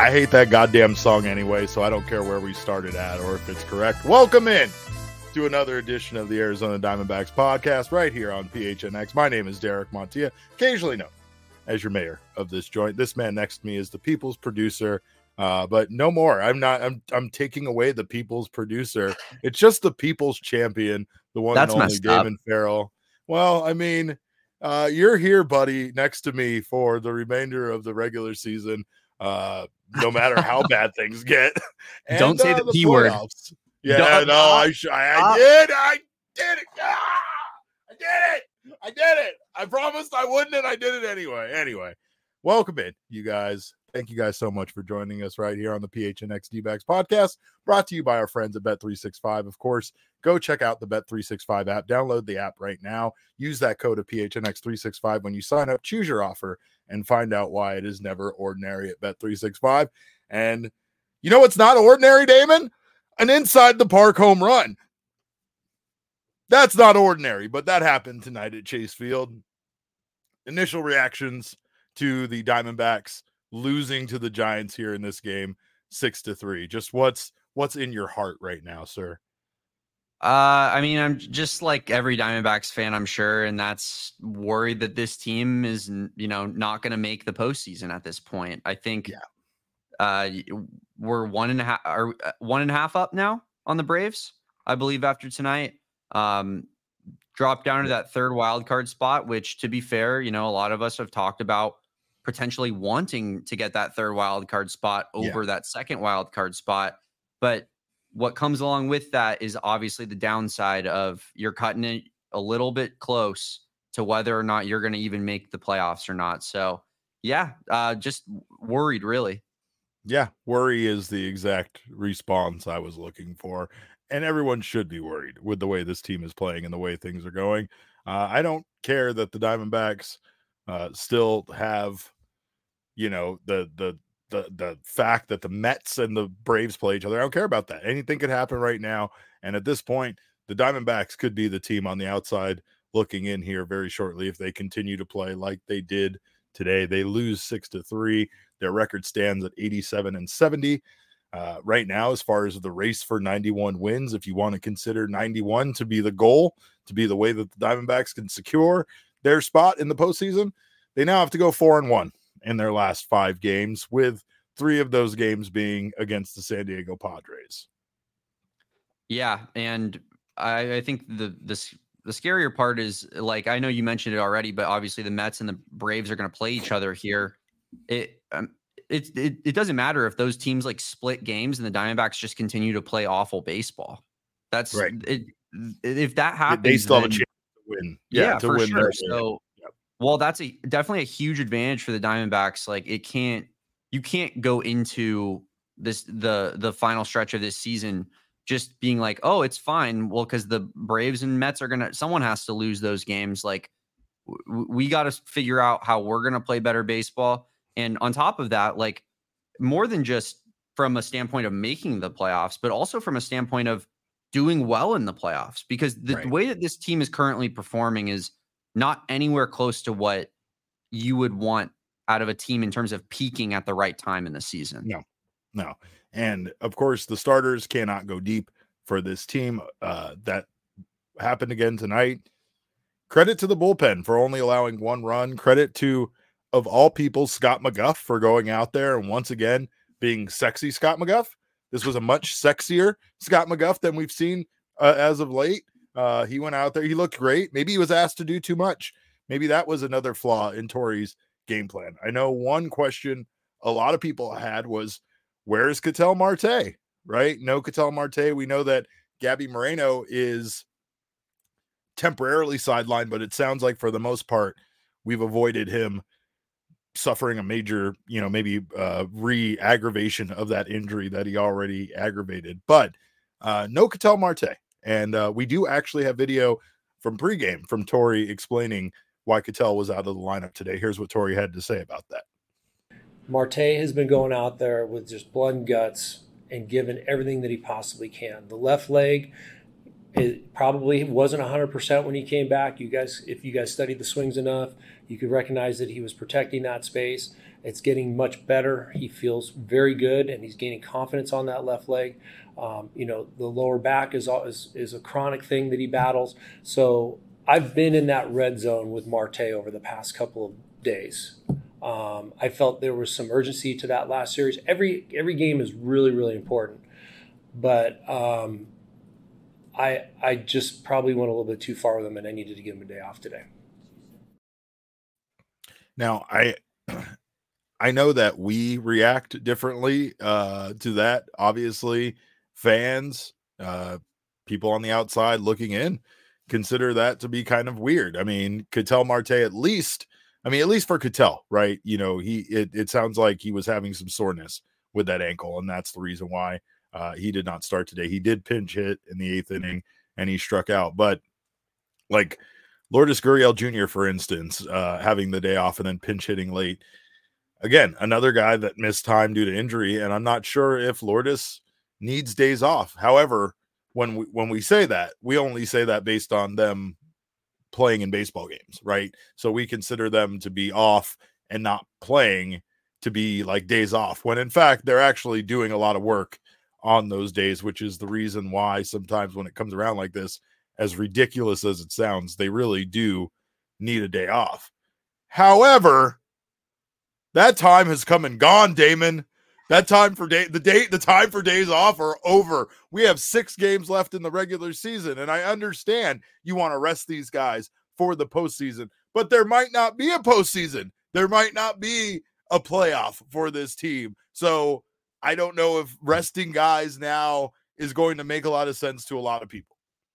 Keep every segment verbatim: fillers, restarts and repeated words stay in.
I hate that goddamn song anyway, so I don't care where we started at or if it's correct. Welcome in to another edition of the Arizona Diamondbacks podcast right here on P H N X. My name is Derek Montilla, occasionally known as your mayor of this joint. This man next to me is the people's producer, uh, but no more. I'm not. I'm. I'm taking away the people's producer. It's just the people's champion, the one That's and only messed up. Damon Farrell. Well, I mean, uh, you're here, buddy, next to me for the remainder of the regular season. Uh, no matter how bad things get. And, Don't say uh, the the P word. playoffs. Yeah, Don't- no, I, sh- I, I did. I did it. Ah, I did it. I did it. I promised I wouldn't, and I did it anyway. Anyway, welcome in, you guys. Thank you guys so much for joining us right here on the P H N X D-Backs podcast, brought to you by our friends at Bet three sixty-five. Of course, go check out the Bet three sixty-five app. Download the app right now. Use that code of P H N X three sixty-five when you sign up. Choose your offer and find out why it is never ordinary at Bet three sixty-five. And you know what's not ordinary, Damon? An inside the park home run. That's not ordinary, but that happened tonight at Chase Field. Initial reactions to the Diamondbacks losing to the Giants here in this game, six to three. Just what's what's in your heart right now, sir? Uh, I mean, I'm just like every Diamondbacks fan, I'm sure, and that's worried that this team is, you know, not going to make the postseason at this point. I think Yeah. uh, we're one and a half, or one and a half up now on the Braves, I believe, after tonight. Um, dropped down to that third wild card spot, which, to be fair, you know, a lot of us have talked about potentially wanting to get that third wild card spot over Yeah. that second wild card spot. But what comes along with that is obviously the downside of you're cutting it a little bit close to whether or not you're going to even make the playoffs or not. So yeah, uh, just worried really. Yeah, worry is the exact response I was looking for. And everyone should be worried with the way this team is playing and the way things are going. Uh, I don't care that the Diamondbacks uh, still have, you know, the the the the fact that the Mets and the Braves play each other. I don't care about that. Anything could happen right now. And at this point, the Diamondbacks could be the team on the outside looking in here very shortly if they continue to play like they did today. They lose six to three. Their record stands at eighty-seven and seventy. Uh, right now, as far as the race for ninety-one wins, if you want to consider ninety-one to be the goal, to be the way that the Diamondbacks can secure their spot in the postseason, they now have to go four and one in their last five games, with three of those games being against the San Diego Padres. Yeah, and I, I think the the the scarier part is, like, I know you mentioned it already, but obviously the Mets and the Braves are going to play each other here. It um, it, it it doesn't matter if those teams like split games and the Diamondbacks just continue to play awful baseball. That's right. It, if that happens, they still have then, a chance to win. Yeah, Yeah, to for win sure. their, So, yep. well, that's a definitely a huge advantage for the Diamondbacks. Like, it can't you can't go into this the the final stretch of this season just being like, oh, it's fine. Well, because the Braves and Mets are gonna, someone has to lose those games. Like, w- we got to figure out how we're gonna play better baseball. And on top of that, like, more than just from a standpoint of making the playoffs, but also from a standpoint of doing well in the playoffs, because the Right. way that this team is currently performing is not anywhere close to what you would want out of a team in terms of peaking at the right time in the season. No, no. And of course, the starters cannot go deep for this team. Uh, that happened again tonight. Credit to the bullpen for only allowing one run. Credit to, of all people, Scott McGough for going out there and once again being sexy Scott McGough. This was a much sexier Scott McGough than we've seen uh, as of late. Uh, he went out there. He looked great. Maybe he was asked to do too much. Maybe that was another flaw in Torey's game plan. I know one question a lot of people had was, where is Ketel Marte? Right? No Ketel Marte. We know that Gabby Moreno is temporarily sidelined, but it sounds like for the most part, we've avoided him suffering a major, you know, maybe uh, re-aggravation of that injury that he already aggravated. But uh, no Ketel Marte. And uh, we do actually have video from pregame from Torey explaining why Ketel was out of the lineup today. Here's what Torey had to say about that. Marte has been going out there with just blood and guts and given everything that he possibly can. The left leg, it probably wasn't one hundred percent when he came back. You guys, if you guys studied the swings enough, you could recognize that he was protecting that space. It's getting much better. He feels very good, and he's gaining confidence on that left leg. Um, you know, the lower back is, is is a chronic thing that he battles. So I've been in that red zone with Marte over the past couple of days. Um, I felt there was some urgency to that last series. Every every game is really, really important. But um, I I just probably went a little bit too far with him, and I needed to give him a day off today. Now, I I know that we react differently uh, to that. Obviously, fans, uh, people on the outside looking in, consider that to be kind of weird. I mean, Ketel Marte, at least, I mean, at least for Ketel, right? You know, he it, it sounds like he was having some soreness with that ankle, and that's the reason why uh, he did not start today. He did pinch hit in the eighth inning, and he struck out. But like Lourdes Gurriel Junior, for instance, uh, having the day off and then pinch hitting late. Again, another guy that missed time due to injury, and I'm not sure if Lourdes needs days off. However, when we when we say that, we only say that based on them playing in baseball games, right? So we consider them to be off and not playing to be like days off, when in fact they're actually doing a lot of work on those days, which is the reason why sometimes when it comes around like this, as ridiculous as it sounds, they really do need a day off. However, that time has come and gone, Damon. That time for day, the date, the time for days off are over. We have six games left in the regular season, and I understand you want to rest these guys for the postseason, but there might not be a postseason. There might not be a playoff for this team. So I don't know if resting guys now is going to make a lot of sense to a lot of people.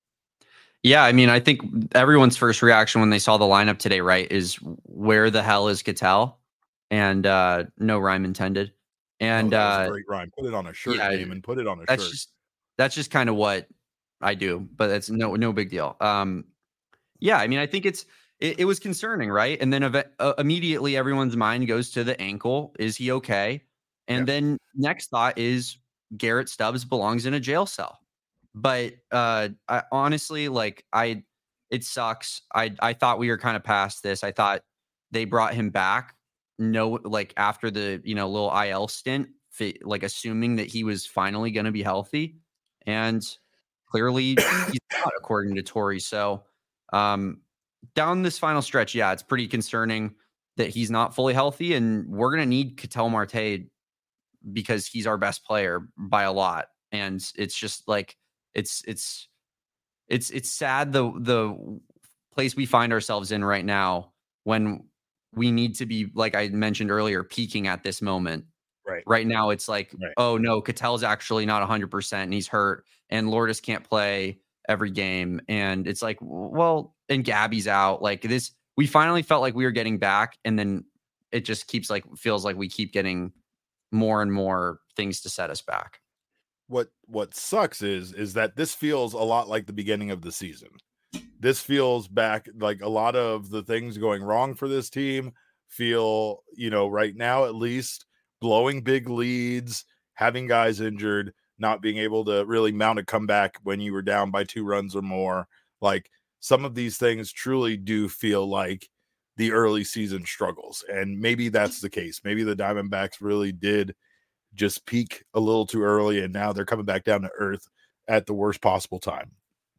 Yeah, I mean, I think everyone's first reaction when they saw the lineup today, right, is where the hell is Ketel? And uh, no rhyme intended. And oh, that was uh, a great rhyme. Put it on a shirt, yeah, Damon. Put it on a that's shirt. Just, that's just kind of what I do, but it's no no big deal. Um, yeah, I mean, I think it's it, it was concerning, right? And then ev- uh, immediately everyone's mind goes to the ankle. Is he okay? And yeah. Then next thought is Garrett Stubbs belongs in a jail cell. But uh, I, honestly, like I, it sucks. I I thought we were kind of past this. I thought they brought him back. No, like after the, you know, little I L stint, like assuming that he was finally going to be healthy, and clearly he's not, according to Torey. So um, down this final stretch, yeah, it's pretty concerning that he's not fully healthy, and we're going to need Ketel Marte because he's our best player by a lot. And it's just like, it's, it's, it's, it's sad the, the place we find ourselves in right now when we need to be, like I mentioned earlier, peaking at this moment. Right. Right now, it's like, right. oh no, Ketel's actually not one hundred percent and he's hurt, and Lourdes can't play every game. And it's like, well, and Gabby's out. Like this, we finally felt like we were getting back, and then it just keeps like, feels like we keep getting more and more things to set us back. What what sucks is is that this feels a lot like the beginning of the season. This feels back like a lot of the things going wrong for this team feel, you know, right now at least, blowing big leads, having guys injured, not being able to really mount a comeback when you were down by two runs or more. Like some of these things truly do feel like the early season struggles. And maybe that's the case. Maybe the Diamondbacks really did just peak a little too early, and now they're coming back down to earth at the worst possible time.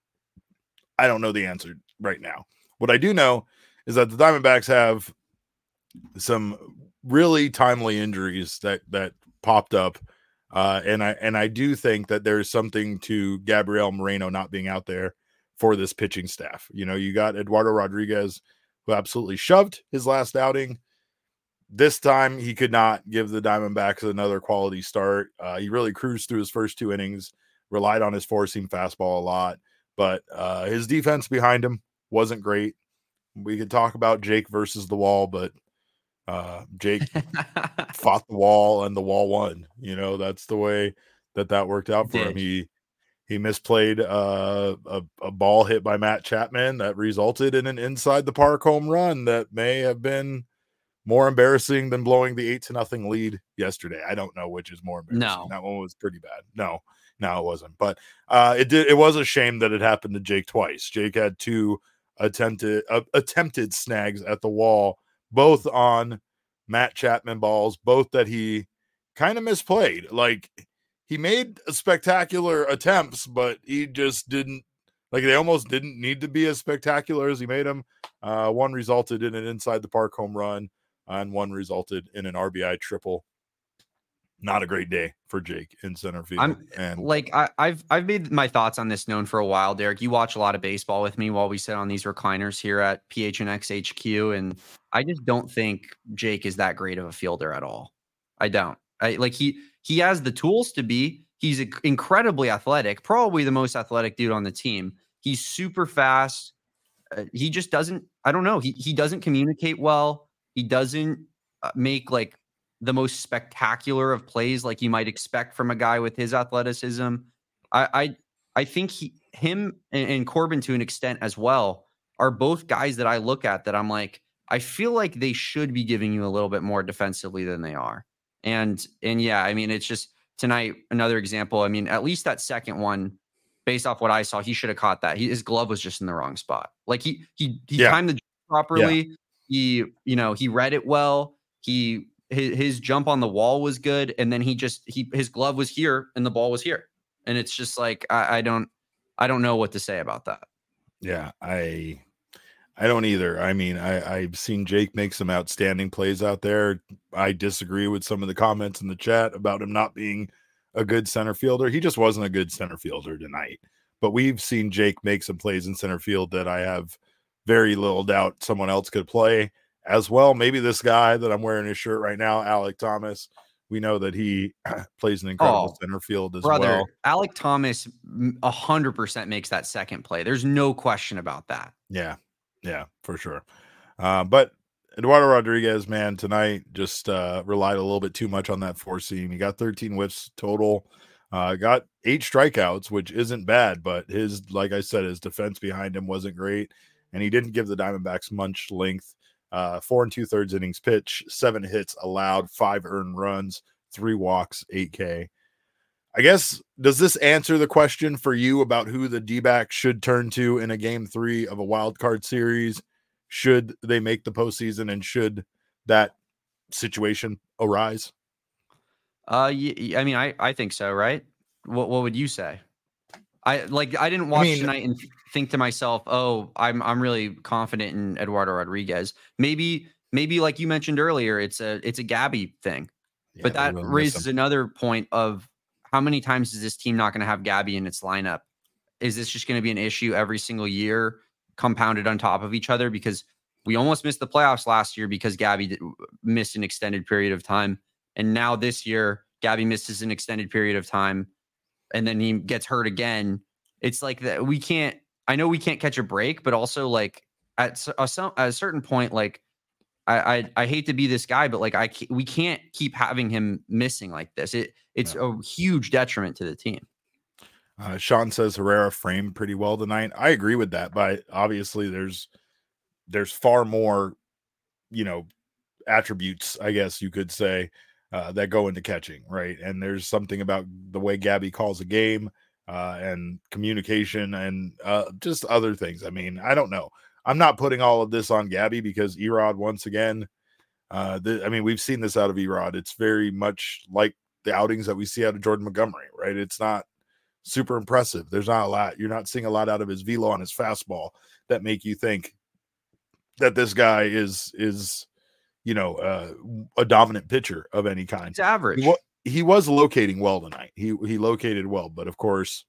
I don't know the answer right now. What I do know is that the Diamondbacks have some really timely injuries that that popped up, uh, and I and I do think that there's something to Gabriel Moreno not being out there for this pitching staff. You know, you got Eduardo Rodriguez, who absolutely shoved his last outing. This time, he could not give the Diamondbacks another quality start. Uh, he really cruised through his first two innings, relied on his four-seam fastball a lot, but uh, his defense behind him wasn't great. We could talk about Jake versus the wall, but uh, Jake fought the wall and the wall won. You know, that's the way that that worked out for him. He he misplayed uh, a, a ball hit by Matt Chapman that resulted in an inside-the-park home run that may have been more embarrassing than blowing the eight to nothing lead yesterday. I don't know which is more embarrassing. No. That one was pretty bad. No, no, it wasn't. But uh, it did. It was a shame that it happened to Jake twice. Jake had two attempted uh, attempted snags at the wall, both on Matt Chapman balls, both that he kind of misplayed. Like, he made spectacular attempts, but he just didn't, like, they almost didn't need to be as spectacular as he made them. Uh, one resulted in an inside the park home run, and one resulted in an R B I triple. Not a great day for Jake in center field. I'm and like, I, I've I've made my thoughts on this known for a while, Derek. You watch a lot of baseball with me while we sit on these recliners here at P H N X H Q, and I just don't think Jake is that great of a fielder at all. I don't. I like he he has the tools to be. He's incredibly athletic, probably the most athletic dude on the team. He's super fast. Uh, he just doesn't. I don't know. He he doesn't communicate well. He doesn't uh, make like the most spectacular of plays like you might expect from a guy with his athleticism. I I, I think he, him and, and Corbin to an extent as well are both guys that I look at that I'm like, I feel like they should be giving you a little bit more defensively than they are. And, and yeah, I mean, it's just tonight, another example. I mean, at least that second one, based off what I saw, he should have caught that. He, his glove was just in the wrong spot. Like he, he, he yeah. timed the properly. Yeah. He, you know, he read it well. He, His, his jump on the wall was good, and then he just he his glove was here and the ball was here, and it's just like I, I don't I don't know what to say about that. Yeah, I I don't either. I mean, I I've seen Jake make some outstanding plays out there. I disagree with some of the comments in the chat about him not being a good center fielder. He just wasn't a good center fielder tonight. But we've seen Jake make some plays in center field that I have very little doubt someone else could play as well. Maybe this guy that I'm wearing his shirt right now, Alek Thomas, we know that he plays an incredible oh, center field as brother, well. Alek Thomas a hundred percent makes that second play. There's no question about that. Yeah. Yeah, for sure. Uh, but Eduardo Rodriguez, man, tonight just uh, relied a little bit too much on that four seam. He got thirteen whiffs total, uh, got eight strikeouts, which isn't bad, but his, like I said, his defense behind him wasn't great. And he didn't give the Diamondbacks much length. Uh, four and two thirds innings pitch, seven hits allowed, five earned runs, three walks, eight K. I guess, does this answer the question for you about who the D-backs should turn to in a game three of a wild card series? Should they make the postseason, and should that situation arise? Uh, I mean, I, I think so, right? What What would you say? I like. I didn't watch I mean, tonight and think to myself, "Oh, I'm I'm really confident in Eduardo Rodriguez." Maybe maybe like you mentioned earlier, it's a it's a Gabby thing, yeah, but that raises another point of how many times is this team not going to have Gabby in its lineup? Is this just going to be an issue every single year, compounded on top of each other? Because we almost missed the playoffs last year because Gabby did, missed an extended period of time, and now this year Gabby misses an extended period of time. And then he gets hurt again. It's like that. We can't, I know we can't catch a break, but also like at a, at a certain point, like I, I, I hate to be this guy, but like I, we can't keep having him missing like this. It, it's no. a huge detriment to the team. Uh, Sean says Herrera framed pretty well tonight. I agree with that, but obviously there's, there's far more, you know, attributes, I guess you could say, Uh, that go into catching, right? And there's something about the way Gabby calls a game uh, and communication and uh, just other things. I mean, I don't know. I'm not putting all of this on Gabby because Erod, once again, uh, the, I mean, we've seen this out of Erod. It's very much like the outings that we see out of Jordan Montgomery, right? It's not super impressive. There's not a lot. You're not seeing a lot out of his velo on his fastball that make you think that this guy is is. you know, uh, a dominant pitcher of any kind. It's average. He, wa- he was locating well tonight. He he located well, but of course,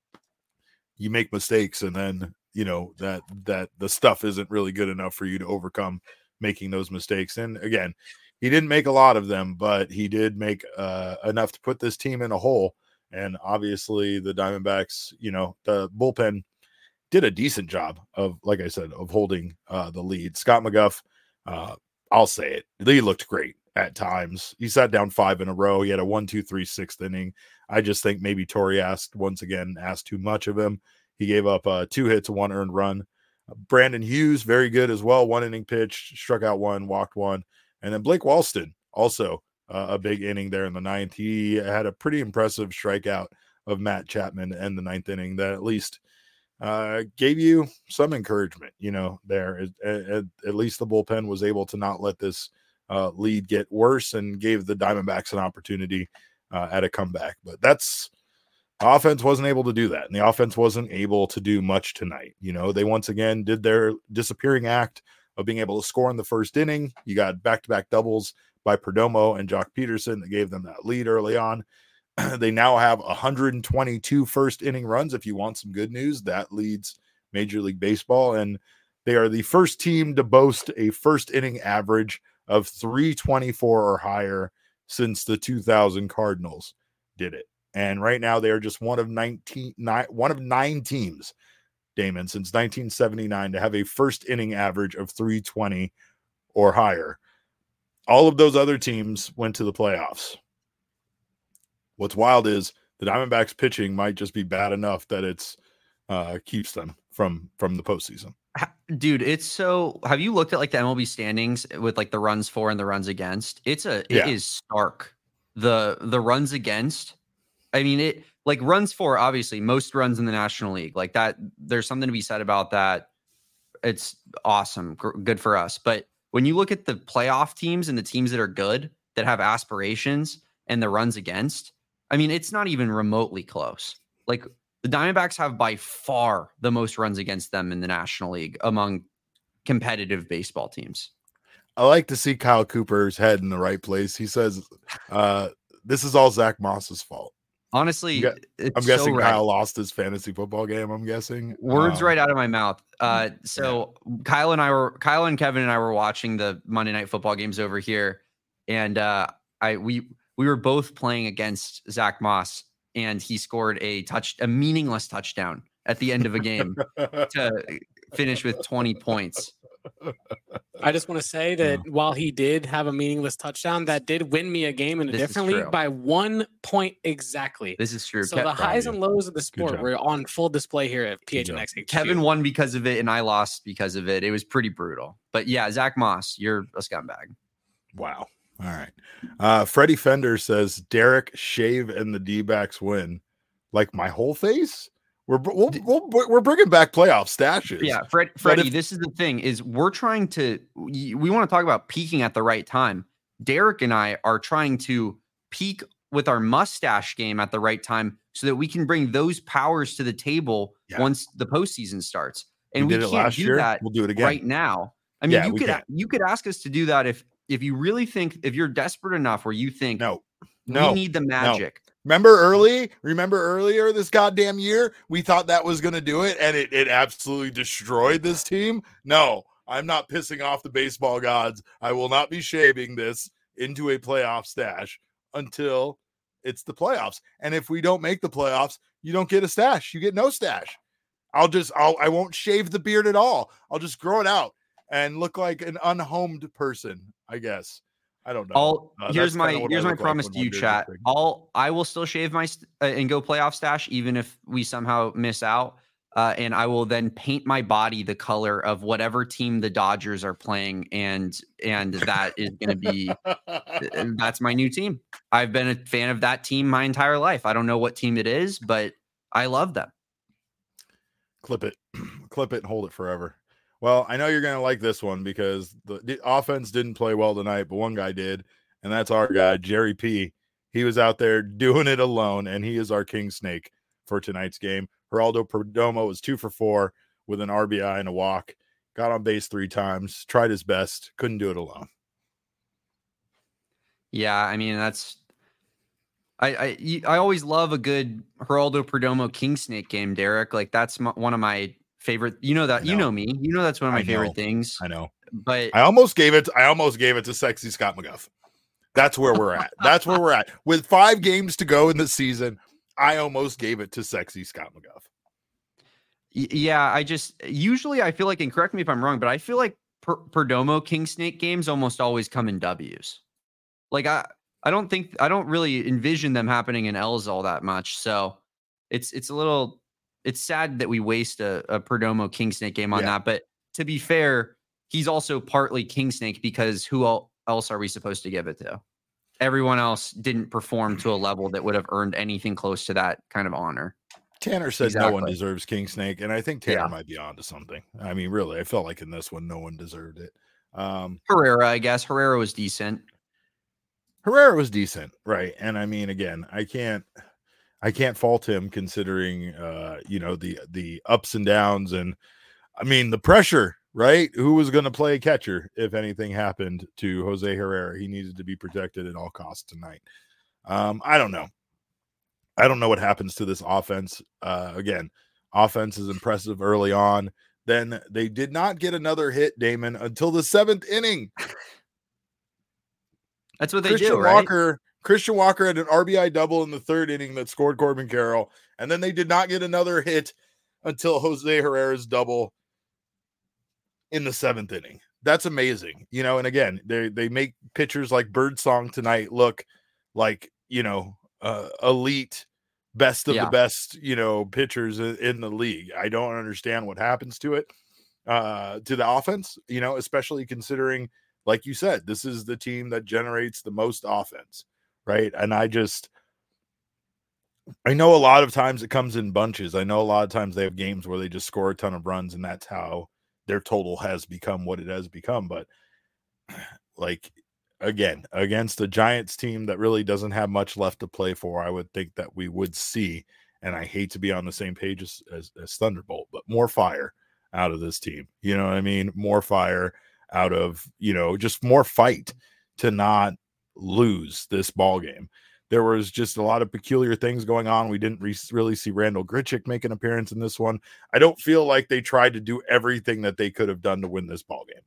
you make mistakes, and then you know that that the stuff isn't really good enough for you to overcome making those mistakes. And again, he didn't make a lot of them, but he did make uh, enough to put this team in a hole. And obviously, the Diamondbacks, you know, the bullpen did a decent job of, like I said, of holding uh, the lead. Scott McGough. Uh, I'll say it. He looked great at times. He sat down five in a row. He had a one, two, three, sixth inning. I just think maybe Torrey asked once again, asked too much of him. He gave up uh, two hits, one earned run. Uh, Brandon Hughes, very good as well. One inning pitch, struck out one, walked one. And then Blake Walston, also uh, a big inning there in the ninth. He had a pretty impressive strikeout of Matt Chapman to end the ninth inning that at least uh, gave you some encouragement, you know, there. At, at, at least the bullpen was able to not let this uh, lead get worse and gave the Diamondbacks an opportunity uh, at a comeback. But that's the offense wasn't able to do that, and the offense wasn't able to do much tonight. You know, they once again did their disappearing act of being able to score in the first inning. You got back-to-back doubles by Perdomo and Jock Peterson that gave them that lead early on. They now have one hundred twenty-two first inning runs. If you want some good news, that leads Major League Baseball, and they are the first team to boast a first inning average of three twenty-four or higher since the two thousand Cardinals did it. And right now they are just one of nineteen, nine, one of nine teams, Damon, since nineteen seventy-nine to have a first inning average of three twenty or higher. All of those other teams went to the playoffs. What's wild is the Diamondbacks pitching might just be bad enough that it's uh, keeps them from from the postseason. Dude, it's so. Have you looked at like the M L B standings with like the runs for and the runs against? It's a. It Yeah. is stark. The the runs against. I mean, it like runs for obviously most runs in the National League like that. There's something to be said about that. It's awesome, G- good for us. But when you look at the playoff teams and the teams that are good that have aspirations and the runs against, I mean, it's not even remotely close. Like the Diamondbacks have by far the most runs against them in the National League among competitive baseball teams. I like to see Kyle Cooper's head in the right place. He says, uh, "This is all Zach Moss's fault." Honestly, I'm, it's I'm so guessing right. Kyle lost his fantasy football game. I'm guessing Words um, right out of my mouth. Uh, so yeah. Kyle and I were, Kyle and Kevin and I were watching the Monday Night Football games over here, and uh, I we we were both playing against Zach Moss, and he scored a touch, a meaningless touchdown at the end of a game to finish with twenty points. I just want to say that yeah. while he did have a meaningless touchdown, that did win me a game in a this different league by one point exactly. This is true. So Ke- the highs and lows of the sport were on full display here at P H N X H Q. Kevin won because of it, and I lost because of it. It was pretty brutal. But yeah, Zach Moss, you're a scumbag. Wow. All right. Uh, Freddie Fender says, Derek, shave, and the D-backs win. Like my whole face? We're we'll, we'll, we're bringing back playoff stashes. Yeah, Fred, Freddie, if, this is the thing, is we're trying to, we, we want to talk about peaking at the right time. Derek and I are trying to peak with our mustache game at the right time so that we can bring those powers to the table yeah. once the postseason starts. And we, we can't do year. that we'll do it again. right now. I mean, yeah, you could can. you could ask us to do that if if you really think, if you're desperate enough where you think, no, no, we need the magic. No. Remember early? Remember earlier this goddamn year? We thought that was going to do it, and it, it absolutely destroyed this team. No, I'm not pissing off the baseball gods. I will not be shaving this into a playoff stash until it's the playoffs. And if we don't make the playoffs, you don't get a stash. You get no stash. I'll just, I'll, I won't shave the beard at all. I'll just grow it out and look like an unhomed person, I guess. I don't know. I'll, uh, here's my here's my promise like to you, chat. I'll I will still shave my st- uh, and go playoff stash even if we somehow miss out. Uh, and I will then paint my body the color of whatever team the Dodgers are playing, and and that is going to be that's my new team. I've been a fan of that team my entire life. I don't know what team it is, but I love them. Clip it, clip it, and hold it forever. Well, I know you're going to like this one because the, the offense didn't play well tonight, but one guy did, and that's our guy, Jerry P. He was out there doing it alone, and he is our king snake for tonight's game. Geraldo Perdomo was two for four with an R B I and a walk. Got on base three times, tried his best, couldn't do it alone. Yeah, I mean, that's I I, I always love a good Geraldo Perdomo king snake game, Derek. Like, that's my, one of my favorite, you know that know. you know me, you know that's one of my I favorite know. things. I know, but I almost gave it. I almost gave it to Sexy Scott McGuff. That's where we're at. That's where we're at. With five games to go in the season, I almost gave it to Sexy Scott McGuff. Yeah, I just usually I feel like, and correct me if I'm wrong, but I feel like per- Perdomo King Snake games almost always come in W's. Like I, I don't think I don't really envision them happening in L's all that much. So it's it's a little. It's sad that we waste a, a Perdomo King Snake game on yeah. that. But to be fair, he's also partly King Snake because who else are we supposed to give it to? Everyone else didn't perform to a level that would have earned anything close to that kind of honor. Tanner said exactly. no one deserves King Snake, and I think Tanner yeah. might be on to something. I mean, really, I felt like in this one, no one deserved it. Um, Herrera, I guess Herrera was decent. Herrera was decent, right? And I mean, again, I can't, I can't fault him considering, uh, you know, the the ups and downs, and I mean the pressure, right? Who was going to play catcher if anything happened to Jose Herrera? He needed to be protected at all costs tonight. Um, I don't know. I don't know what happens to this offense. Uh, again, offense is impressive early on. Then they did not get another hit, Damon, until the seventh inning. That's what they Christian do, right? Walker, Christian Walker had an R B I double in the third inning that scored Corbin Carroll, and then they did not get another hit until Jose Herrera's double in the seventh inning. That's amazing, you know. And again, they they make pitchers like Birdsong tonight look like, you know, uh, elite, best of Yeah. the best, you know, pitchers in the league. I don't understand what happens to it, uh, to the offense, you know, especially considering, like you said, this is the team that generates the most offense, right? And I just, I know a lot of times it comes in bunches. I know a lot of times they have games where they just score a ton of runs, and that's how their total has become what it has become. But like, again, against a Giants team that really doesn't have much left to play for, I would think that we would see, and I hate to be on the same page as, as, as Thunderbolt, but more fire out of this team. You know what I mean? More fire out of, you know, just more fight to not lose this ball game. There was just a lot of peculiar things going on. We didn't re- really see Randall Grichuk make an appearance in this one. I don't feel like they tried to do everything that they could have done to win this ball game.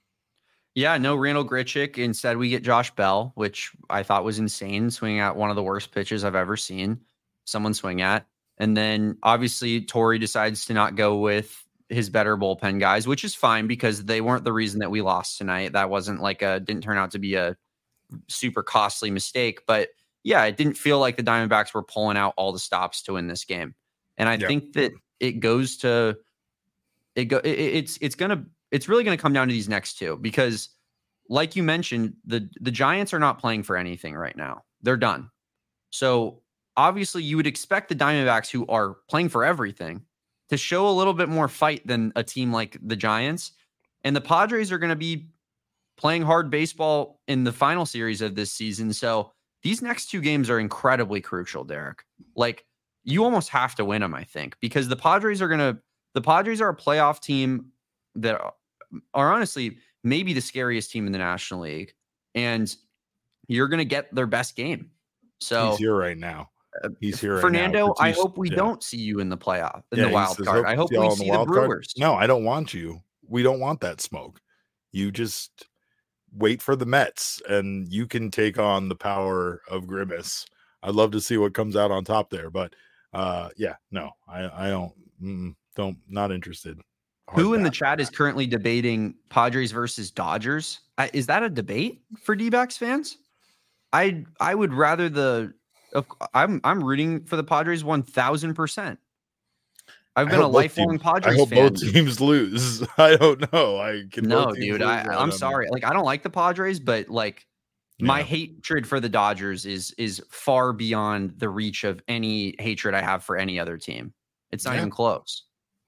Yeah, no Randall Grichuk. Instead, we get Josh Bell, which I thought was insane, swinging at one of the worst pitches I've ever seen someone swing at. And then obviously Torrey decides to not go with his better bullpen guys, which is fine because they weren't the reason that we lost tonight. That wasn't like a, didn't turn out to be a super costly mistake, but yeah, it didn't feel like the Diamondbacks were pulling out all the stops to win this game. And I Yeah. think that it goes to, it go, it, it's, it's going to, it's really going to come down to these next two, because like you mentioned, the, the Giants are not playing for anything right now. They're done. So obviously you would expect the Diamondbacks, who are playing for everything, to show a little bit more fight than a team like the Giants. And the Padres are going to be playing hard baseball in the final series of this season. So these next two games are incredibly crucial, Derek. Like, you almost have to win them, I think, because the Padres are going to, the Padres are a playoff team that are, are honestly maybe the scariest team in the National League. And you're going to get their best game. So he's here right now. He's here. Fernando, right now. I hope we yeah. don't see you in the playoff, in yeah, the wild says, card. I hope we see the, the Brewers. Card. No, I don't want you. We don't want that smoke. You just wait for the Mets, and you can take on the power of Grimace. I'd love to see what comes out on top there, but uh, yeah, no, I, I don't, mm, don't, not interested. Hard Who in the chat is currently debating Padres versus Dodgers? I, is that a debate for D-backs fans? I I would rather the. I'm I'm rooting for the Padres one thousand percent. I've been a lifelong teams, Padres I hope fan. both teams lose. I don't know. I can no, dude. I, I'm sorry. Like, I don't like the Padres, but like yeah. my hatred for the Dodgers is is far beyond the reach of any hatred I have for any other team. It's not yeah. even close.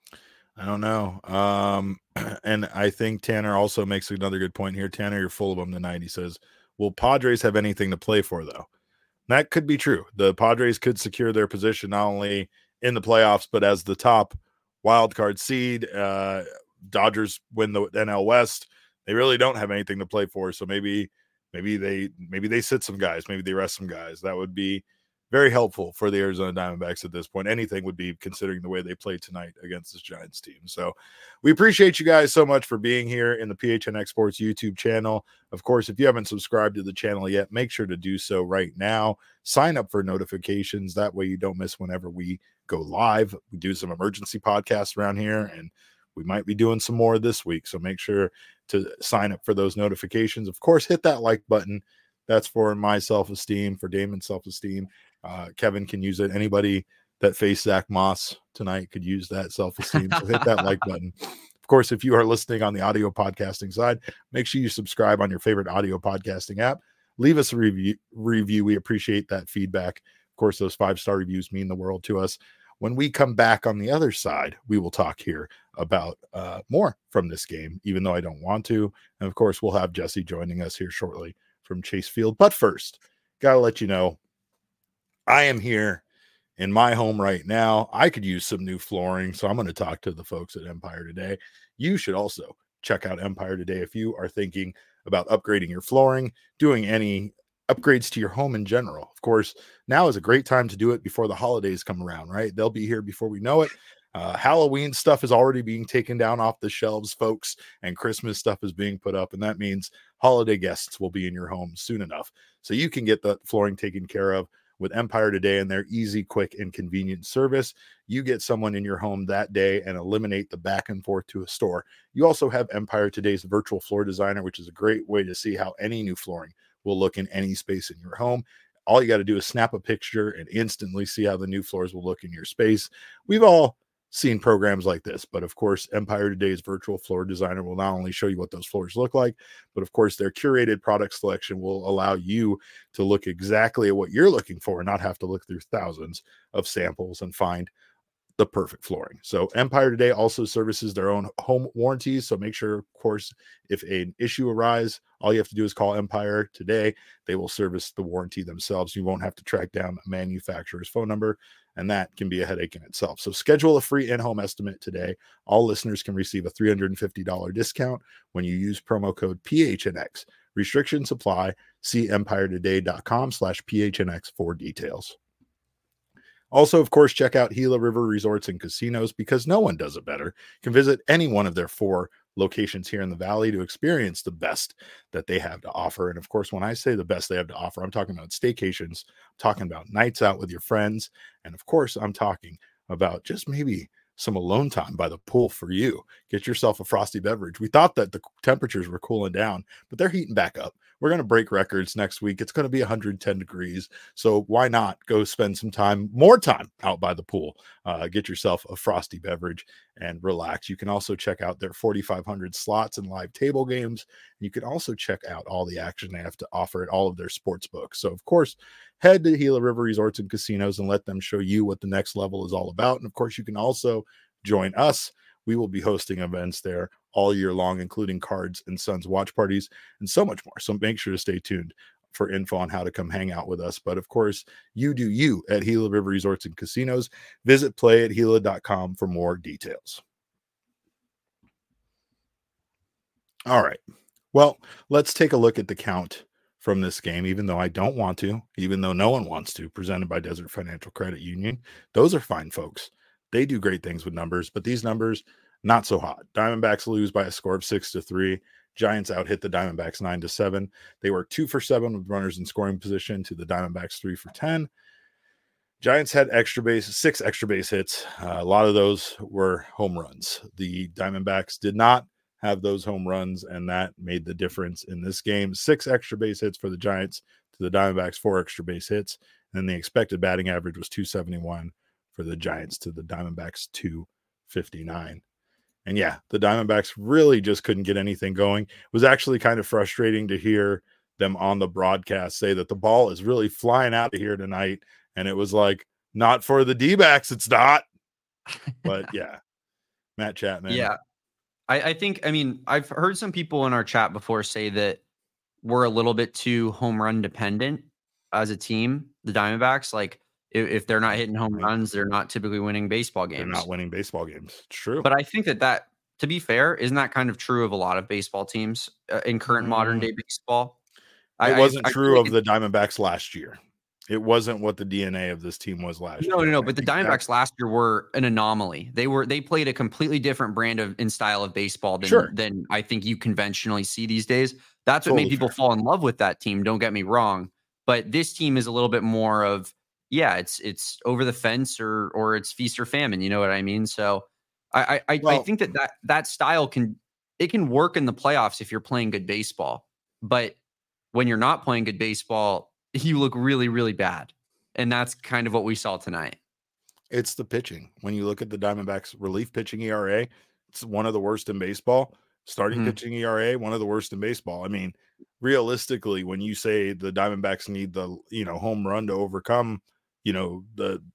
I don't know. Um, and I think Tanner also makes another good point here. Tanner, you're full of them tonight. He says, will Padres have anything to play for, though? That could be true. The Padres could secure their position not only in the playoffs, but as the top wild card seed. Uh, Dodgers win the N L West. They really don't have anything to play for. So maybe, maybe they, maybe they sit some guys, maybe they rest some guys. That would be very helpful for the Arizona Diamondbacks at this point. Anything would be, considering the way they played tonight against this Giants team. So we appreciate you guys so much for being here in the P H N X Sports YouTube channel. Of course, if you haven't subscribed to the channel yet, make sure to do so right now. Sign up for notifications. That way you don't miss whenever we go live. We do some emergency podcasts around here, and we might be doing some more this week. So make sure to sign up for those notifications. Of course, hit that like button. That's for my self-esteem, for Damon's self-esteem. Uh, Kevin can use it. Anybody that faced Zach Moss tonight could use that self-esteem. So hit that like button. Of course, if you are listening on the audio podcasting side, make sure you subscribe on your favorite audio podcasting app. Leave us a review. review. We appreciate that feedback. Of course, those five-star reviews mean the world to us. When we come back on the other side, we will talk here about uh, more from this game, even though I don't want to. And of course, we'll have Jesse joining us here shortly from Chase Field. But first, got to let you know, I am here in my home right now. I could use some new flooring, so I'm going to talk to the folks at Empire Today. You should also check out Empire Today if you are thinking about upgrading your flooring, doing any upgrades to your home in general. Of course, now is a great time to do it before the holidays come around, right? They'll be here before we know it. Uh, Halloween stuff is already being taken down off the shelves, folks, and Christmas stuff is being put up, and that means holiday guests will be in your home soon enough. So you can get the flooring taken care of with Empire Today and their easy, quick, and convenient service. You get someone in your home that day and eliminate the back and forth to a store. You also have Empire Today's virtual floor designer, which is a great way to see how any new flooring will look in any space in your home. All you got to do is snap a picture and instantly see how the new floors will look in your space. We've all seen programs like this, but of course, Empire Today's virtual floor designer will not only show you what those floors look like, but of course, their curated product selection will allow you to look exactly at what you're looking for and not have to look through thousands of samples and find the perfect flooring. So Empire Today also services their own home warranties. So make sure, of course, if an issue arises, all you have to do is call Empire Today. They will service the warranty themselves. You won't have to track down a manufacturer's phone number, and that can be a headache in itself. So schedule a free in-home estimate today. All listeners can receive a three hundred fifty dollars discount when you use promo code P H N X. Restrictions apply. See empire today dot com slash P H N X for details. Also, of course, check out Gila River Resorts and Casinos, because no one does it better. You can visit any one of their four locations here in the Valley to experience the best that they have to offer. And of course, when I say the best they have to offer, I'm talking about staycations, I'm talking about nights out with your friends. And of course, I'm talking about just maybe some alone time by the pool for you. Get yourself a frosty beverage. We thought that the temperatures were cooling down, but they're heating back up. We're going to break records next week. It's going to be one hundred ten degrees. So why not go spend some time, more time out by the pool, uh, get yourself a frosty beverage and relax. You can also check out their forty-five hundred slots and live table games. You can also check out all the action they have to offer at all of their sports books. So of course, head to Gila River Resorts and Casinos and let them show you what the next level is all about. And of course, you can also join us. We will be hosting events there all year long, including Cards and Sons watch parties and so much more. So make sure to stay tuned for info on how to come hang out with us. But of course, you do you at Gila River Resorts and Casinos. Visit play at gila dot com for more details. All right. Well, let's take a look at the count from this game, even though I don't want to, even though no one wants to, presented by Desert Financial Credit Union. Those are fine folks. They do great things with numbers, but these numbers, not so hot. Diamondbacks lose by a score of six to three. Giants out hit the Diamondbacks nine to seven. They were two for seven with runners in scoring position to the Diamondbacks three for ten. Giants had extra base, six extra base hits. Uh, a lot of those were home runs. The Diamondbacks did not have those home runs, and that made the difference in this game. Six extra base hits for the Giants to the Diamondbacks, four extra base hits. And the expected batting average was two seventy-one for the Giants to the Diamondbacks two fifty-nine. And yeah, the Diamondbacks really just couldn't get anything going. It was actually kind of frustrating to hear them on the broadcast say that the ball is really flying out of here tonight. And it was like, not for the D-backs, it's not. But yeah, Matt Chapman. Yeah, I, I think, I mean, I've heard some people in our chat before say that we're a little bit too home run dependent as a team, the Diamondbacks. Like, if, if they're not hitting home runs, they're not typically winning baseball games. They're not winning baseball games. It's true. But I think that that, to be fair, isn't that kind of true of a lot of baseball teams uh, in current mm. modern day baseball? It I, wasn't I, true I of the Diamondbacks last year. It wasn't what the D N A of this team was last no, year. No, no, no. But the Diamondbacks that, last year were an anomaly. They were they played a completely different brand of and style of baseball than, sure. than I think you conventionally see these days. That's what totally made people fair. fall in love with that team. Don't get me wrong. But this team is a little bit more of, yeah, it's it's over the fence or or it's feast or famine. You know what I mean? So I I, well, I think that, that that style can it can work in the playoffs if you're playing good baseball. But when you're not playing good baseball, you look really, really bad. And that's kind of what we saw tonight. It's the pitching. When you look at the Diamondbacks relief pitching E R A, it's one of the worst in baseball. Starting mm-hmm. pitching E R A, one of the worst in baseball. I mean, realistically, when you say the Diamondbacks need the, you know, home run to overcome, you know, the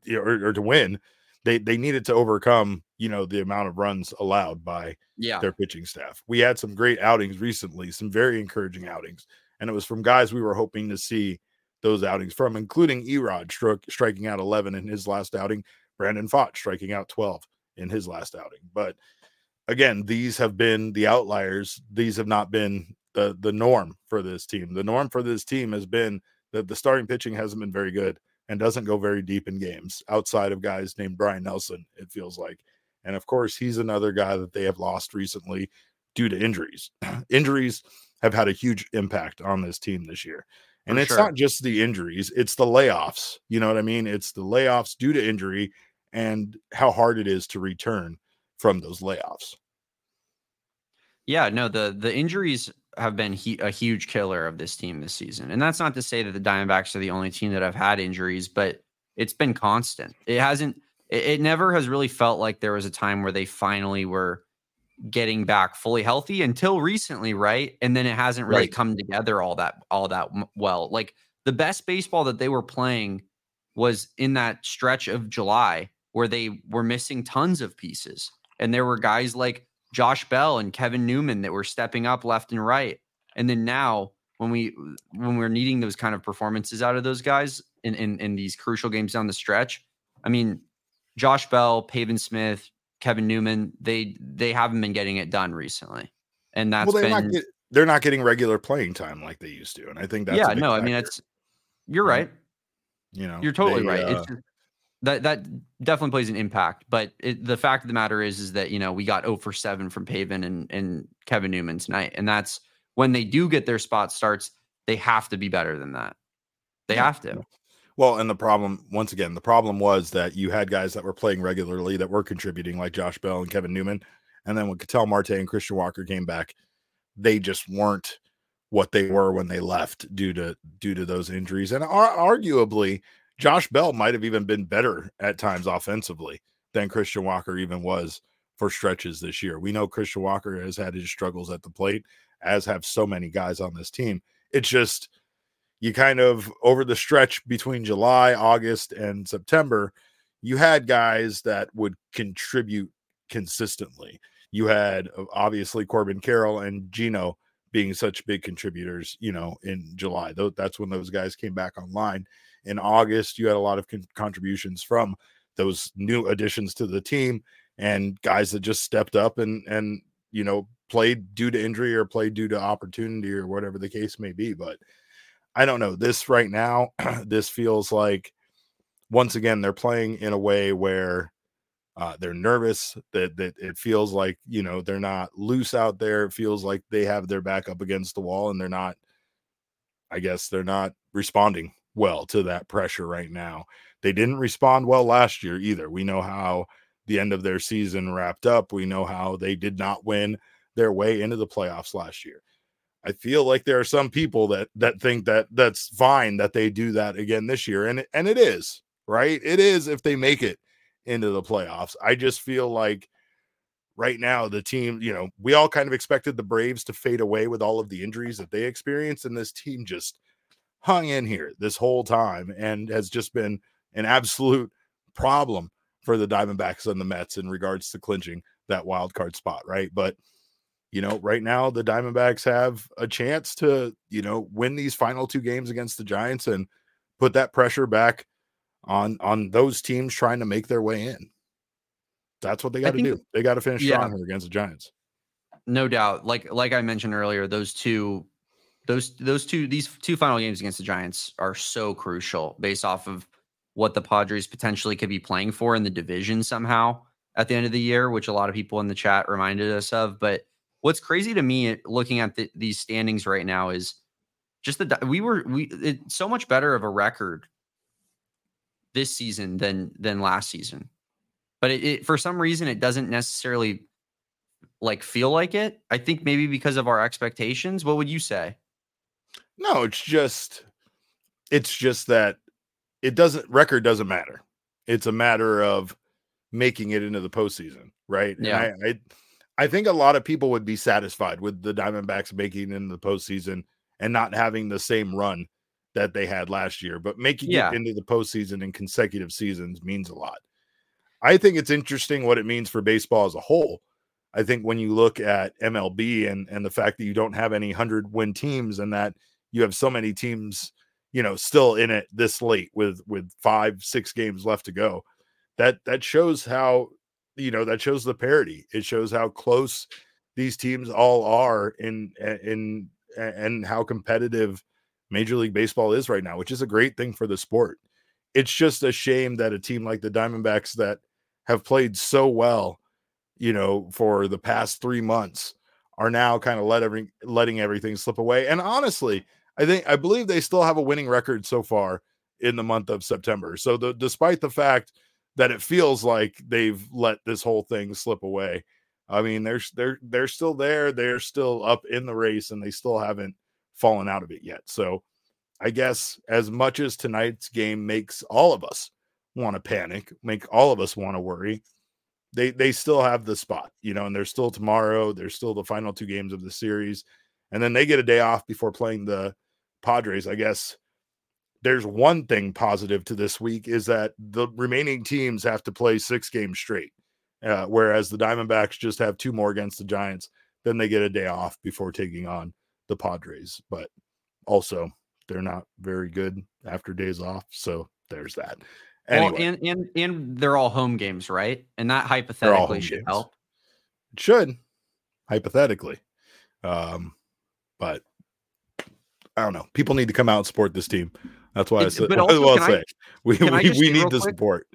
or, or to win, they they needed to overcome, you know, the amount of runs allowed by yeah. their pitching staff. We had some great outings recently, some very encouraging outings, and it was from guys we were hoping to see those outings from, including Erod stri- striking out eleven in his last outing, Brandon Pfaadt striking out twelve in his last outing. But again, these have been the outliers. These have not been the the norm for this team. The norm for this team has been that the starting pitching hasn't been very good and doesn't go very deep in games outside of guys named Brian Nelson, it feels like. And of course, he's another guy that they have lost recently due to injuries. Injuries have had a huge impact on this team this year. And For it's sure. not just the injuries, it's the layoffs. You know what I mean? It's the layoffs due to injury and how hard it is to return from those layoffs. Yeah, no, the the injuries have been he, a huge killer of this team this season. And that's not to say that the Diamondbacks are the only team that have had injuries, but it's been constant. It hasn't, it, it never has really felt like there was a time where they finally were getting back fully healthy until recently, right? And then it hasn't really Right. come together all that all that well. Like the best baseball that they were playing was in that stretch of July where they were missing tons of pieces. And there were guys like Josh Bell and Kevin Newman that were stepping up left and right. And then now when we when we're needing those kind of performances out of those guys in, in, in these crucial games down the stretch, I mean, Josh Bell, Pavin Smith, Kevin Newman, they they haven't been getting it done recently. And that's well, they're been not get, they're not getting regular playing time like they used to. And I think that's yeah, a big no, I factor. mean it's you're right. You know, You're totally they, right. Uh, It's that that definitely plays an impact. But it, the fact of the matter is, is that, you know, we got zero for seven from Pavin and, and Kevin Newman tonight. And that's when they do get their spot starts, they have to be better than that. They Yeah. have to. Well, and the problem, once again, the problem was that you had guys that were playing regularly that were contributing, like Josh Bell and Kevin Newman. And then when Ketel Marte and Christian Walker came back, they just weren't what they were when they left due to due to those injuries. And ar- arguably, Josh Bell might have even been better at times offensively than Christian Walker even was for stretches this year. We know Christian Walker has had his struggles at the plate, as have so many guys on this team. It's just, you kind of, over the stretch between July, August, and September, you had guys that would contribute consistently. You had obviously Corbin Carroll and Gino being such big contributors, you know, in July. That's when those guys came back online. In August, you had a lot of con- contributions from those new additions to the team and guys that just stepped up and, and, you know, played due to injury or played due to opportunity or whatever the case may be. But I don't know, this right now, this feels like, once again, they're playing in a way where uh, they're nervous, that, that it feels like, you know, they're not loose out there. It feels like they have their back up against the wall and they're not, I guess they're not responding well to that pressure right now. They didn't respond well last year either. We know how the end of their season wrapped up. We know how they did not win their way into the playoffs last year. I feel like there are some people that that think that that's fine that they do that again this year. And, and it is, right? It is if they make it into the playoffs. I just feel like right now the team, you know, we all kind of expected the Braves to fade away with all of the injuries that they experienced. And this team just hung in here this whole time and has just been an absolute problem for the Diamondbacks and the Mets in regards to clinching that wild card spot, right? But, you know, right now the Diamondbacks have a chance to, you know, win these final two games against the Giants and put that pressure back on on those teams trying to make their way in. That's what they got to do. They got to finish yeah, strong here against the Giants. No doubt. Like like I mentioned earlier, those two those those two these two final games against the Giants are so crucial based off of what the Padres potentially could be playing for in the division somehow at the end of the year, which a lot of people in the chat reminded us of. But what's crazy to me looking at the, these standings right now is just that we were we it's so much better of a record this season than than last season. But it, it for some reason it doesn't necessarily like feel like it. I think maybe because of our expectations. What would you say? No, it's just it's just that it doesn't record doesn't matter. It's a matter of making it into the postseason, right? Yeah. And I, I I think a lot of people would be satisfied with the Diamondbacks making it into the postseason and not having the same run that they had last year, but making yeah. it into the postseason in consecutive seasons means a lot. I think it's interesting what it means for baseball as a whole. I think when you look at M L B and, and the fact that you don't have any hundred win teams and that you have so many teams, you know, still in it this late with, with five, six games left to go, that, that shows how, you know, that shows the parity. It shows how close these teams all are in, in, and how competitive Major League Baseball is right now, which is a great thing for the sport. It's just a shame that a team like the Diamondbacks that have played so well, you know, for the past three months are now kind of let every, letting everything slip away. And honestly, I think, I believe they still have a winning record so far in the month of September. So the, despite the fact that it feels like they've let this whole thing slip away, I mean, they're, they're, they're still there. They're still up in the race and they still haven't fallen out of it yet. So I guess as much as tonight's game makes all of us want to panic, make all of us want to worry, they, they still have the spot, you know, and there's still tomorrow. There's still the final two games of the series. And then they get a day off before playing the Padres. I guess there's one thing positive to this week is that the remaining teams have to play six games straight. Uh, whereas the Diamondbacks just have two more against the Giants, then they get a day off before taking on the Padres. But also, they're not very good after days off, so there's that. Anyway, well, and and and they're all home games, right? And that hypothetically should games. help. It should, hypothetically, um, but I don't know. People need to come out and support this team. That's why it's, I said. But also, well, say I, we we, we need the quick? support.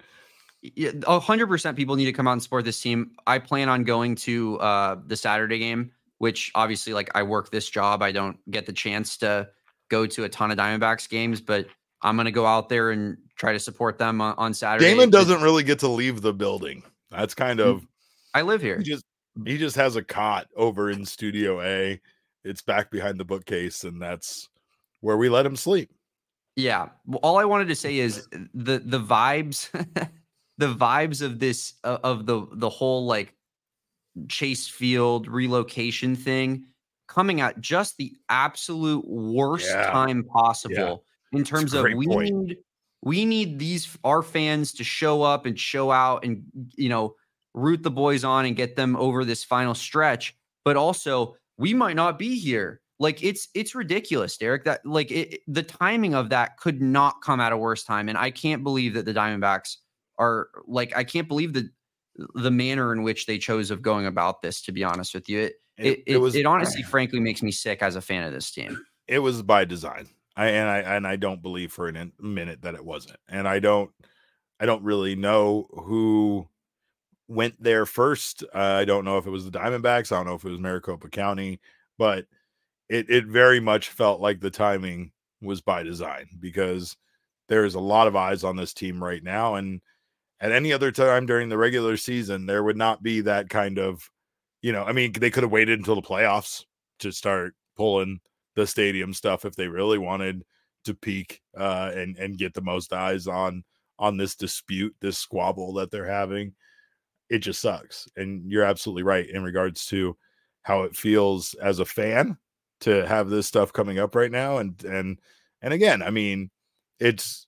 A hundred percent people need to come out and support this team. I plan on going to uh, the Saturday game, which obviously, like, I work this job. I don't get the chance to go to a ton of Diamondbacks games, but I'm going to go out there and try to support them on, on Saturday. Damon doesn't really get to leave the building. That's kind of, I live here. He just, he just has a cot over in Studio A. It's back behind the bookcase, and that's where we let him sleep. Yeah. Well, all I wanted to say is the, the vibes, the vibes of this, uh, of the, the whole like Chase Field relocation thing coming at just the absolute worst yeah. time possible yeah. in terms of we point. need, we need these, our fans to show up and show out and, you know, root the boys on and get them over this final stretch. But also we might not be here. Like it's, it's ridiculous, Derek, that like it, the timing of that could not come at a worse time. And I can't believe that the Diamondbacks are like, I can't believe the, the manner in which they chose of going about this, to be honest with you. It, it, it, it was, it honestly, frankly, makes me sick as a fan of this team. It was by design. I, and I, and I don't believe for a minute that it wasn't. And I don't, I don't really know who went there first. Uh, I don't know if it was the Diamondbacks. I don't know if it was Maricopa County, but it, it very much felt like the timing was by design because there's a lot of eyes on this team right now. And at any other time during the regular season, there would not be that kind of, you know, I mean, they could have waited until the playoffs to start pulling the stadium stuff if they really wanted to peak uh, and, and get the most eyes on, on this dispute, this squabble that they're having. It just sucks. And you're absolutely right in regards to how it feels as a fan to have this stuff coming up right now. And, and, and again, I mean, it's,